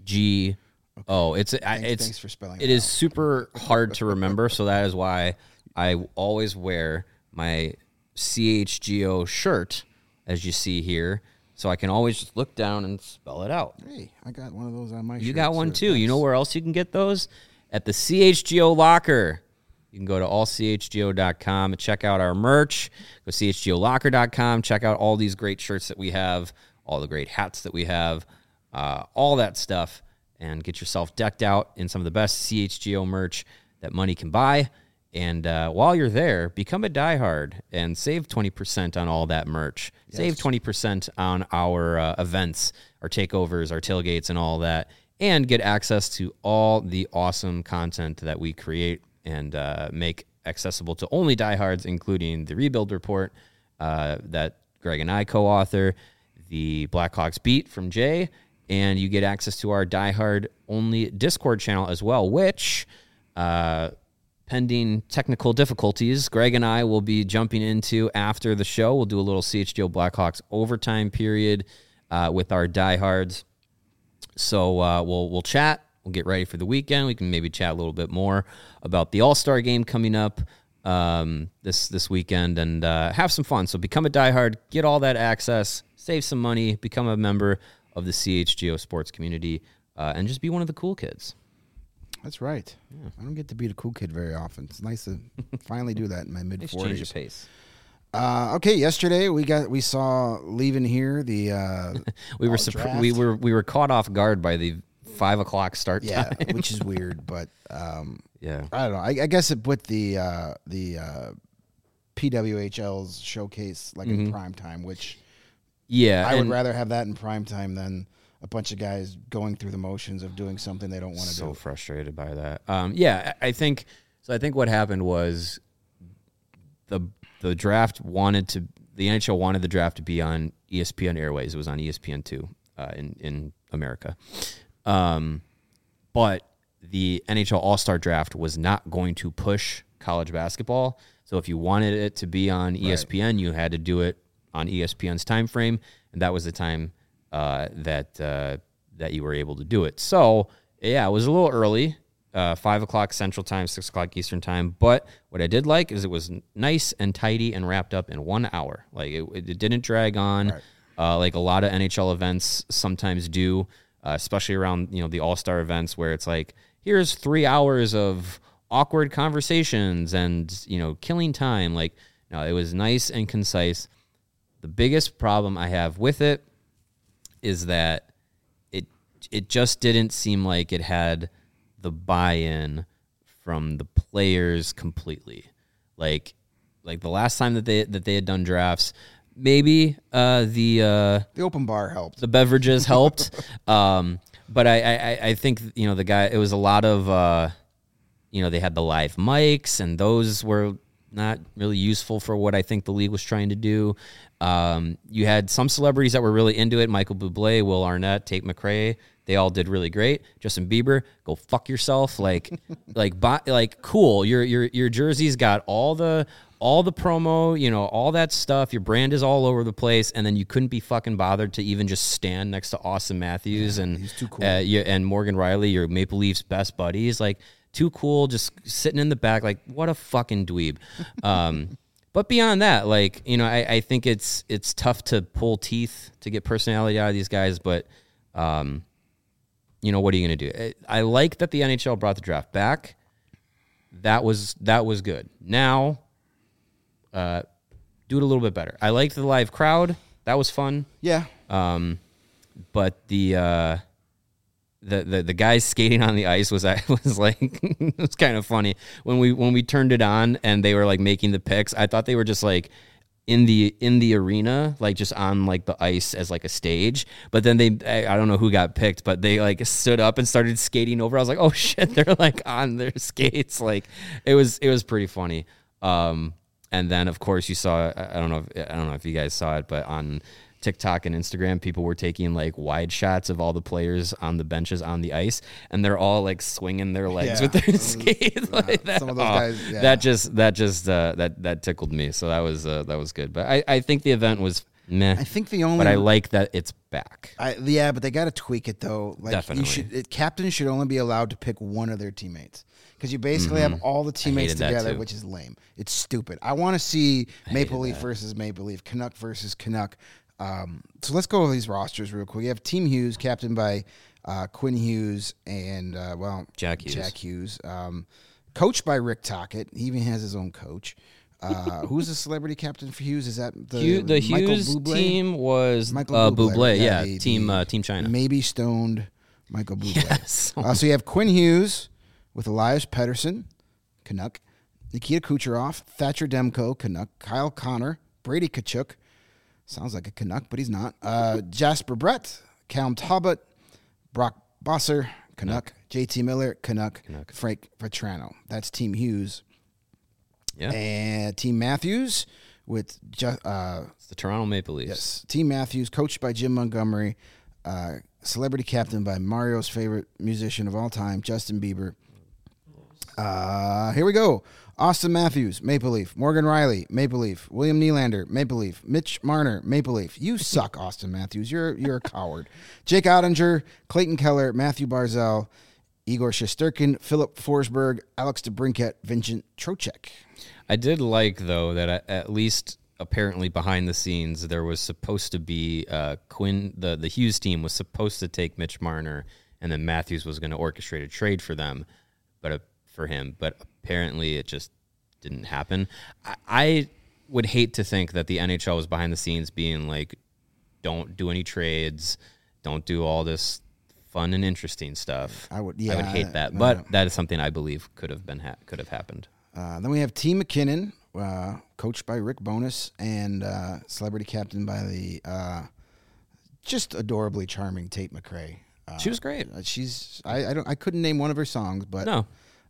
Thanks for spelling it. It is super hard to remember, so that is why I always wear my CHGO shirt, as you see here, so I can always just look down and spell it out. Hey, I got one of those on my shirt. You got one too. Thanks. You know where else you can get those? At the CHGO Locker. You can go to allchgo.com and check out our merch. Go to chgolocker.com. Check out all these great shirts that we have, all the great hats that we have, all that stuff, and get yourself decked out in some of the best CHGO merch that money can buy. And while you're there, become a diehard and save 20% on all that merch. Yes. Save 20% on our events, our takeovers, our tailgates, and all that, and get access to all the awesome content that we create and make accessible to only diehards, including the Rebuild Report that Greg and I co-author, the Blackhawks Beat from Jay, and you get access to our diehard only Discord channel as well, which, pending technical difficulties, Greg and I will be jumping into after the show. We'll do a little CHGO Blackhawks overtime period with our diehards. So we'll chat. We'll get ready for the weekend. We can maybe chat a little bit more about the All-Star game coming up this weekend and have some fun. So become a diehard, get all that access, save some money, become a member of the CHGO sports community, and just be one of the cool kids. That's right. Yeah. I don't get to be the cool kid very often. It's nice to finally do that in my mid-40s. Change of pace. Okay, yesterday we saw leaving here the we were caught off guard by the 5 o'clock start time. Yeah, which is weird, but yeah, I don't know. I guess it put the PWHL's showcase like in prime time, which I would rather have that in prime time than a bunch of guys going through the motions of doing something they don't want to do. So frustrated by that. I think what happened was the draft the NHL wanted the draft to be on ESPN Airways. It was on ESPN2 in America. But the NHL All-Star Draft was not going to push college basketball. So if you wanted it to be on ESPN, you had to do it on ESPN's time frame, and that was the time that you were able to do it. So yeah, it was a little early, 5 o'clock Central Time, 6 o'clock Eastern Time. But what I did like is it was nice and tidy and wrapped up in 1 hour. Like it didn't drag on, like a lot of NHL events sometimes do, especially around the All-Star events where it's like, here's 3 hours of awkward conversations and killing time. Like, no, it was nice and concise. The biggest problem I have with it is that it just didn't seem like it had the buy-in from the players completely. Like the last time that they had done drafts, maybe the open bar helped, the beverages helped, but I think the guy. It was a lot of they had the live mics, and those were not really useful for what I think the league was trying to do. You had some celebrities that were really into it. Michael Bublé, Will Arnett, Tate McRae. They all did really great. Justin Bieber, go fuck yourself. Like cool. Your jersey's got all the promo, all that stuff. Your brand is all over the place, and then you couldn't be fucking bothered to even just stand next to Austin Matthews and he's too cool. And Morgan Riley, your Maple Leafs best buddies. Like, too cool, just sitting in the back. Like, what a fucking dweeb. But beyond that, I think it's tough to pull teeth to get personality out of these guys. But, what are you going to do? I like that the NHL brought the draft back. That was good. Now, do it a little bit better. I liked the live crowd. That was fun. Yeah. But the guys skating on the ice was like it was kind of funny when we turned it on and they were like making the picks. I thought they were just like in the arena, like just on like the ice as like a stage. But then I don't know who got picked, but they like stood up and started skating over. I was like, oh shit, they're like on their skates. Like it was pretty funny. And then of course you saw, I don't know if you guys saw it, but on TikTok and Instagram, people were taking like wide shots of all the players on the benches on the ice, and they're all like swinging their legs with their skates. Like that. Some of those guys, that tickled me. So that was good. But I think the event was meh. I think but I like that it's back. But they got to tweak it though. Like definitely, captains should only be allowed to pick one of their teammates. Because you basically have all the teammates together, which is lame. It's stupid. I want to see Maple Leaf versus Maple Leaf, Canuck versus Canuck. So let's go over these rosters real quick. You have Team Hughes, captained by Quinn Hughes and Jack Hughes. Jack Hughes, coached by Rick Tocchet. He even has his own coach. Who's the celebrity captain for Hughes? Is that the Hughes Bublé? Team was Michael Bublé? Yeah, the Team China. Maybe stoned Michael Bublé. Yes. So you have Quinn Hughes with Elias Pettersson, Canuck, Nikita Kucherov, Thatcher Demko, Canuck, Kyle Connor, Brady Tkachuk. Sounds like a Canuck, but he's not. Jasper Brett, Cam Talbot, Brock Bosser, Canuck. JT Miller, Canuck. Frank Vetrano. That's Team Hughes. Yeah. And Team Matthews with it's the Toronto Maple Leafs. Yes. Team Matthews, coached by Jim Montgomery, celebrity captain by Mario's favorite musician of all time, Justin Bieber. Here we go. Austin Matthews, Maple Leaf. Morgan Riley, Maple Leaf. William Nylander, Maple Leaf. Mitch Marner, Maple Leaf. You suck, Austin Matthews. You're a coward. Jake Ottinger, Clayton Keller, Matthew Barzal, Igor Shesterkin, Philip Forsberg, Alex DeBrincat, Vincent Trocheck. I did like, though, that at least apparently behind the scenes there was supposed to be Quinn, the Hughes team was supposed to take Mitch Marner, and then Matthews was going to orchestrate a trade for them, for him, but apparently it just didn't happen. I would hate to think that the NHL was behind the scenes being like, don't do any trades, don't do all this fun and interesting stuff. I would hate that, but that is something I believe could have happened. Then we have T. McKinnon, coached by Rick Bowness, and celebrity captain by the just adorably charming Tate McRae. She was great. I couldn't name one of her songs, but no.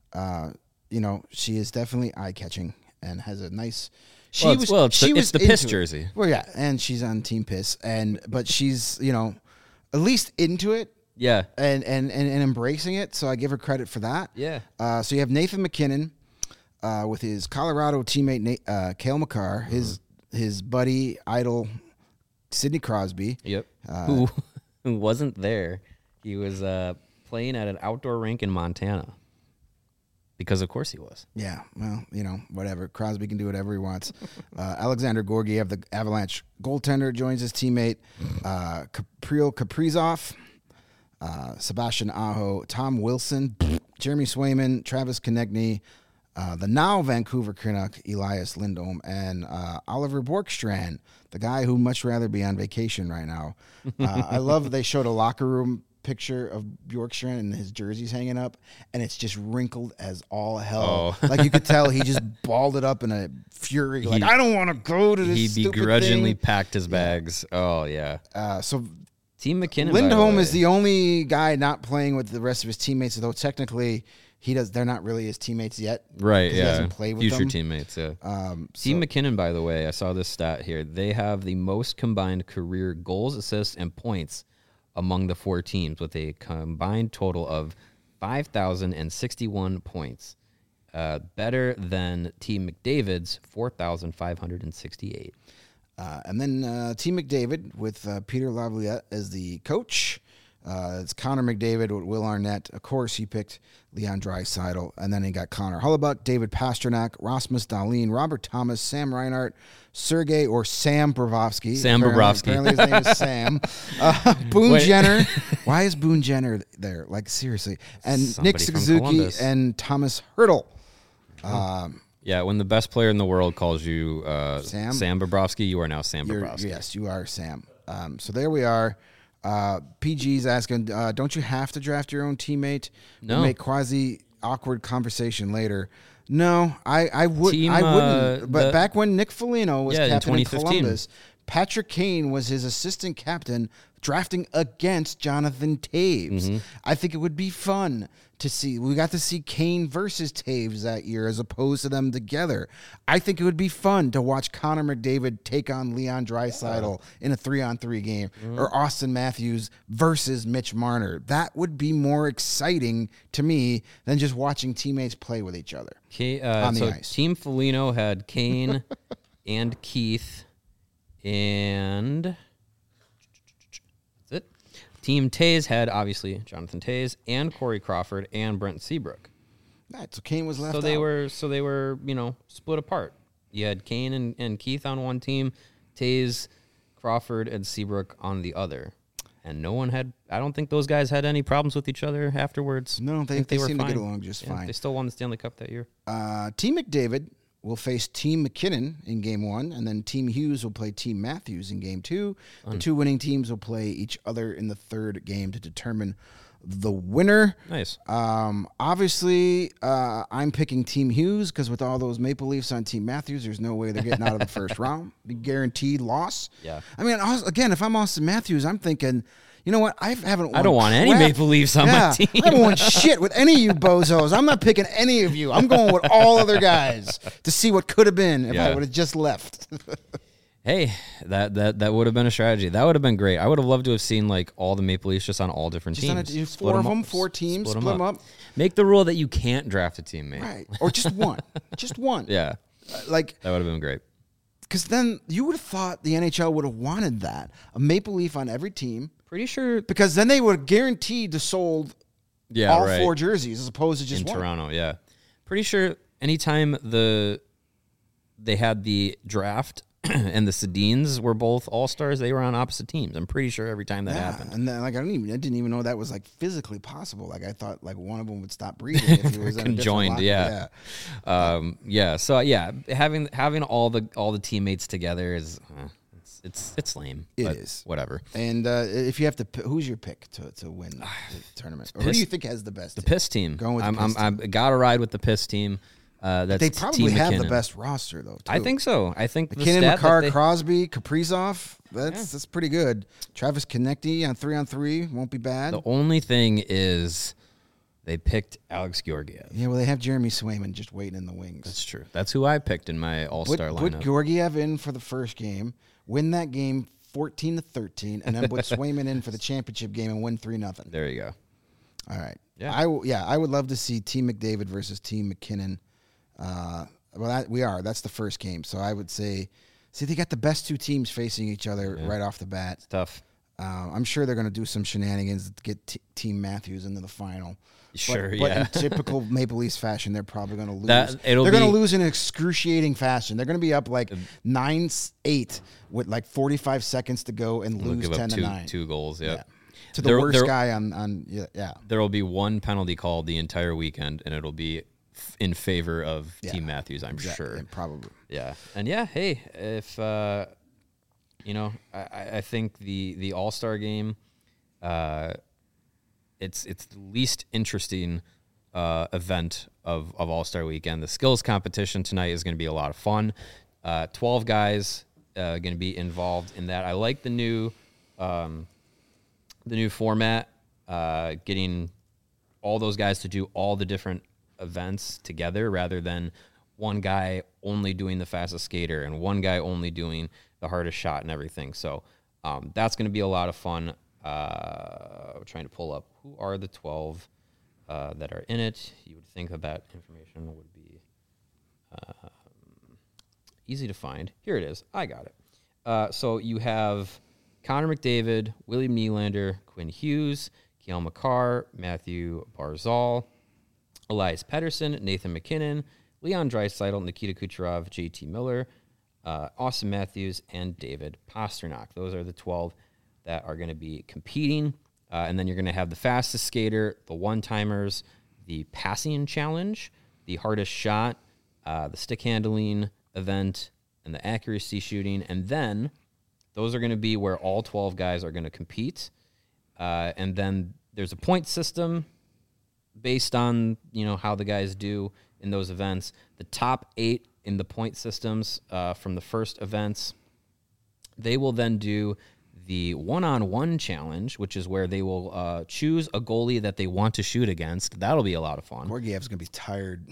She is definitely eye-catching and has a nice. It's the Piss jersey. Well, yeah, and she's on Team Piss, but she's at least into it. Yeah, and embracing it. So I give her credit for that. Yeah. So you have Nathan McKinnon, with his Colorado teammate Cale Makar, his buddy idol Sidney Crosby. Yep. Who wasn't there? He was playing at an outdoor rink in Montana. Because of course he was. Yeah, well, whatever. Crosby can do whatever he wants. Alexander Gorgiev, the Avalanche goaltender, joins his teammate. Kirill Kaprizov, Sebastian Aho, Tom Wilson, Jeremy Swayman, Travis Konechny, the now Vancouver Canuck, Elias Lindholm, and Oliver Bjorkstrand, the guy who'd much rather be on vacation right now. I love they showed a locker room picture of Bjorkstrand and his jersey's hanging up, and it's just wrinkled as all hell. Oh. Like you could tell he just balled it up in a fury. Like, I don't want to go to this. He begrudgingly packed his bags. Yeah. Oh yeah. So Team McKinnon. Lindholm is the only guy not playing with the rest of his teammates, though technically they're not really his teammates yet. Right. Yeah. He hasn't played with future them. teammates. Yeah. Team McKinnon, by the way, I saw this stat here. They have the most combined career goals, assists, and points among the four teams, with a combined total of 5,061 points, better than Team McDavid's 4,568. And then Team McDavid with Peter Laviolette as the coach. It's Connor McDavid with Will Arnett. Of course, he picked Leon Draisaitl. And then he got Connor Hellebuyck, David Pastrnak, Rasmus Dahlin, Robert Thomas, Sam Reinhart, Sergei or Sam Bobrovsky. Apparently his name is Sam. Boone Jenner. Why is Boone Jenner there? Like, seriously. And Somebody Nick Suzuki and Thomas Hertl. Yeah, when the best player in the world calls you Sam Bobrovsky, you are now Sam Bobrovsky. Yes, you are Sam. So there we are. PG's asking, don't you have to draft your own teammate? No. We'll make quasi-awkward conversation later. No, I wouldn't. But back when Nick Foligno was captain in Columbus, Patrick Kane was his assistant captain drafting against Jonathan Toews. Mm-hmm. I think it would be fun to see. We got to see Kane versus Toews that year as opposed to them together. I think it would be fun to watch Connor McDavid take on Leon Draisaitl in a 3-on-3 game, or Austin Matthews versus Mitch Marner. That would be more exciting to me than just watching teammates play with each other on the ice. Team Foligno had Kane and Keith, and that's it. Team Toews had, obviously, Jonathan Toews and Corey Crawford and Brent Seabrook. Right, so Kane was left out. So they were, split apart. You had Kane and Keith on one team, Toews, Crawford, and Seabrook on the other. And no one had, I don't think those guys had any problems with each other afterwards. No, they were seemed fine. to get along just fine. They still won the Stanley Cup that year. Team McDavid will face Team McKinnon in Game 1, and then Team Hughes will play Team Matthews in Game 2. The two winning teams will play each other in the third game to determine the winner. Nice. Obviously, I'm picking Team Hughes because with all those Maple Leafs on Team Matthews, there's no way they're getting out of the first round. Be guaranteed loss. Yeah. I mean, again, if I'm Austin Matthews, I'm thinking, you know what? I don't want any Maple Leafs on my team. I don't want shit with any of you bozos. I'm not picking any of you. I'm going with all other guys to see what could have been if I would have just left. Hey, that would have been a strategy. That would have been great. I would have loved to have seen like all the Maple Leafs just on all different teams. Four of them, 4 teams, split them up. Make the rule that you can't draft a teammate. Right. Or just one. Just one. Yeah. Like that would have been great. Because then you would have thought the NHL would have wanted that. A Maple Leaf on every team. Pretty sure. Because then they would have guaranteed to sold all 4 jerseys as opposed to just in one. Toronto, yeah. Pretty sure anytime they had the draft and the Sedins were both all-stars, they were on opposite teams. I'm pretty sure every time that happened. And then, like I didn't even know that was like physically possible. Like I thought like one of them would stop breathing if he was conjoined, yeah. So having all the teammates together is it's lame. It is. Whatever. And if you have to, who's your pick to win the tournament? Or who do you think has the best? The Piss team. Going with the Piss team. I'm gotta ride with the Piss team. They probably have the best roster, though. Too. I think so. I think McKinnon, Makar, Crosby, Kaprizov. That's pretty good. Travis Konecny on 3-on-3 won't be bad. The only thing is they picked Alex Georgiev. Yeah, well, they have Jeremy Swayman just waiting in the wings. That's true. That's who I picked in my all-star lineup. Put Georgiev in for the first game, win that game 14-13, and then put Swayman in for the championship game and win 3-0. There you go. All right. Yeah. I would love to see Team McDavid versus Team McKinnon. That's the first game. So I would say, they got the best 2 teams facing each other right off the bat. It's tough. I'm sure they're going to do some shenanigans to get Team Matthews into the final. Sure, but in typical Maple Leafs fashion, they're probably going to lose. They're going to lose in excruciating fashion. They're going to be up like 9-8 with like 45 seconds to go and lose 10-9. 2 goals, yeah. To the worst guy on. There will be one penalty called the entire weekend, and it'll be in favor of Team Matthews, I'm sure. Probably. Yeah. And hey, if I think the All-Star game, it's the least interesting event of All-Star weekend. The skills competition tonight is going to be a lot of fun. 12 guys going to be involved in that. I like the new format, getting all those guys to do all the different events together rather than one guy only doing the fastest skater and one guy only doing the hardest shot and everything. So that's going to be a lot of fun. I'm trying to pull up who are the 12 that are in it. You would think that information would be easy to find. Here it is. I got it. So you have Connor McDavid, William Nylander, Quinn Hughes, Cale Makar, Matthew Barzal, Elias Pettersson, Nathan McKinnon, Leon Draisaitl, Nikita Kucherov, JT Miller, Austin Matthews, and David Pastrnak. Those are the 12 that are going to be competing. And then you're going to have the fastest skater, the one-timers, the passing challenge, the hardest shot, the stick handling event, and the accuracy shooting. And then those are going to be where all 12 guys are going to compete. And then there's a point system based on, how the guys do in those events. The top 8 in the point systems from the first events, they will then do the one-on-one challenge, which is where they will choose a goalie that they want to shoot against. That'll be a lot of fun. Gorgiev's going to be tired.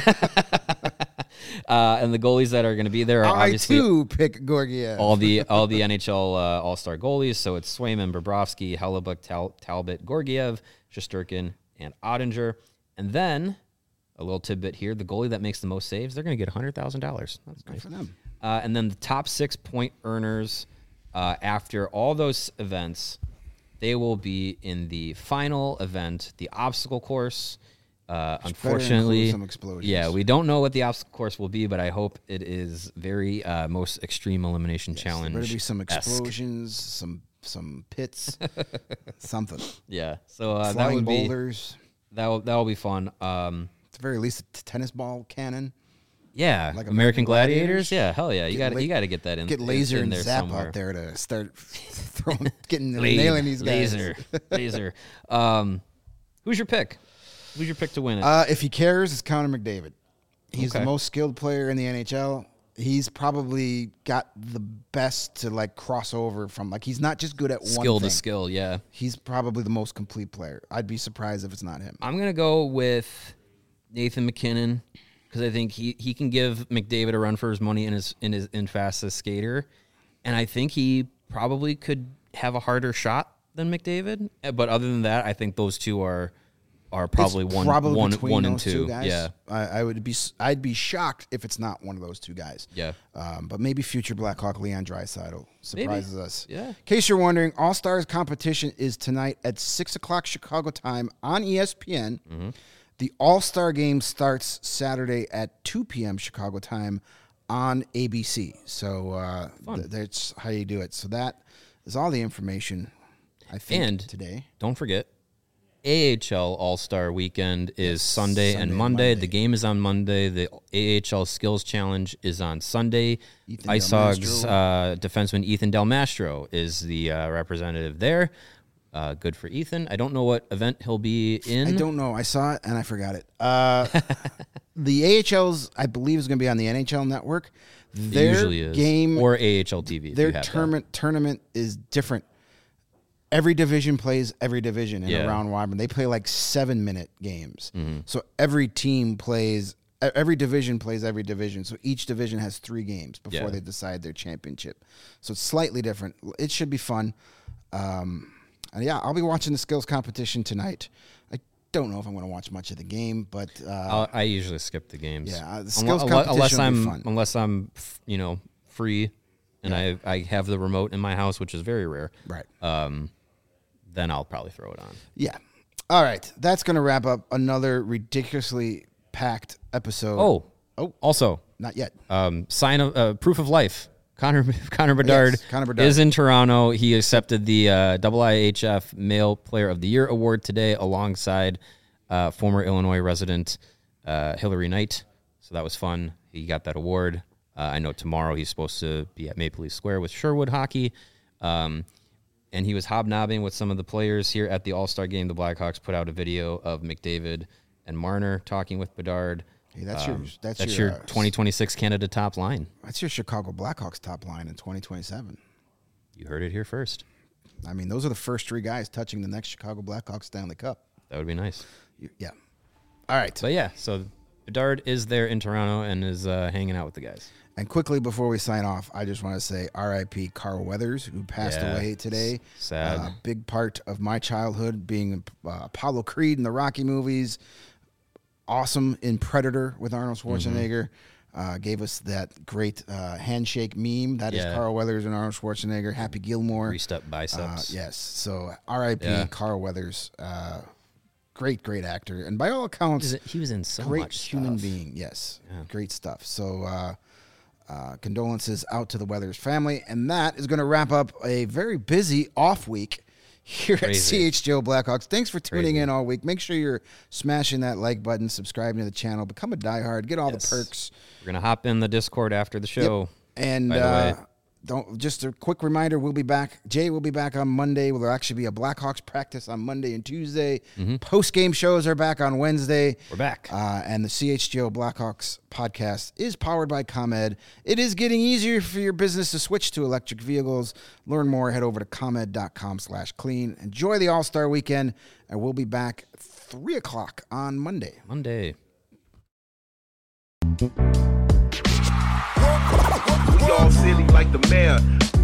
And the goalies that are going to be there are obviously... I, too, pick Gorgiev. all the NHL All-Star goalies. So it's Swayman, Bobrovsky, Hellebuyck, Talbot, Gorgiev, Shesterkin, and Ottinger. And then, a little tidbit here, the goalie that makes the most saves, they're going to get $100,000. That's good nice. For them. And then the top 6 point earners... after all those events, they will be in the final event, the obstacle course. Unfortunately, some explosions. Yeah, we don't know what the obstacle course will be, but I hope it is very most extreme elimination challenge. There better be some explosions, some pits, something. Yeah, so flying that would boulders. That will be fun. At the very least, a tennis ball cannon. Yeah, like American Gladiators. Yeah, hell yeah, you got to get that in. Get Laser in and there Zap somewhere. out there to start nailing these guys. Laser. Who's your pick? Who's your pick to win it? If he cares, it's Connor McDavid. He's the most skilled player in the NHL. He's probably got the best to cross over from. He's not just good at one skill thing. To skill. Yeah, he's probably the most complete player. I'd be surprised if it's not him. I'm gonna go with Nathan McKinnon. Because I think he can give McDavid a run for his money in fastest skater, And I think he probably could have a harder shot than McDavid. But other than that, I think those two are probably one and two guys. Yeah, I'd be shocked if it's not one of those two guys. Yeah, but maybe future Blackhawk Leon Draisaitl surprises us. Yeah. In case you're wondering, All Stars competition is tonight at 6:00 Chicago time on ESPN. Mm-hmm. The All Star game starts Saturday at 2 p.m. Chicago time on ABC. So that's how you do it. So that is all the information. I think today. Don't forget. AHL All-Star Weekend is Sunday and Monday. The game is on Monday. The AHL Skills Challenge is on Sunday. Ice Hogs defenseman Ethan Del Mastro is the representative there. Good for Ethan. I don't know what event he'll be in. I don't know. I saw it and I forgot it. The AHL's, I believe, is going to be on the NHL Network. It usually is. Game or AHL TV. Their tournament is different. Every division plays every division in a round robin. They play like 7-minute games. Mm-hmm. So every division plays every division. So each division has 3 games before they decide their championship. So it's slightly different. It should be fun. And I'll be watching the skills competition tonight. I don't know if I'm going to watch much of the game, but I usually skip the games. Yeah, the skills competition will be fun. Unless I'm free and I have the remote in my house, which is very rare. Right. Then I'll probably throw it on. Yeah. All right. That's going to wrap up another ridiculously packed episode. Oh. Also, not yet. Proof of life. Connor Bedard, is in Toronto. He accepted the IIHF Male Player of the Year award today alongside former Illinois resident Hillary Knight. So that was fun. He got that award. I know tomorrow he's supposed to be at Maple Leaf Square with Sherwood Hockey. And he was hobnobbing with some of the players here at the All-Star game. The Blackhawks put out a video of McDavid and Marner talking with Bedard. Hey, that's your 2026 Canada top line. That's your Chicago Blackhawks top line in 2027. You heard it here first. I mean, those are the first 3 guys touching the next Chicago Blackhawks Stanley Cup. That would be nice. Yeah. All right. But so Bedard is there in Toronto and is hanging out with the guys. And quickly before we sign off, I just want to say R.I.P. Carl Weathers, who passed away today. Sad. Big part of my childhood being Apollo Creed in the Rocky movies. Awesome in Predator with Arnold Schwarzenegger. Gave us that great handshake meme. That is Carl Weathers and Arnold Schwarzenegger. Happy Gilmore. Greased up biceps. Yes. So R.I.P. Carl Weathers. Great actor. And by all accounts, he was in so great much human stuff. being. Yes. Yeah. Great stuff. So condolences out to the Weathers family. And that is going to wrap up a very busy off week here at CHGO Blackhawks. Thanks for tuning in all week. Make sure you're smashing that like button, subscribing to the channel, become a diehard, get all the perks. We're going to hop in the Discord after the show. Yep. And just a quick reminder, we'll be back. Jay will be back on Monday. Will there actually be a Blackhawks practice on Monday and Tuesday? Mm-hmm. Post-game shows are back on Wednesday. We're back. And the CHGO Blackhawks podcast is powered by ComEd. It is getting easier for your business to switch to electric vehicles. Learn more. Head over to ComEd.com/clean. Enjoy the All-Star weekend, and we'll be back 3 o'clock on Monday. We all silly like the mayor.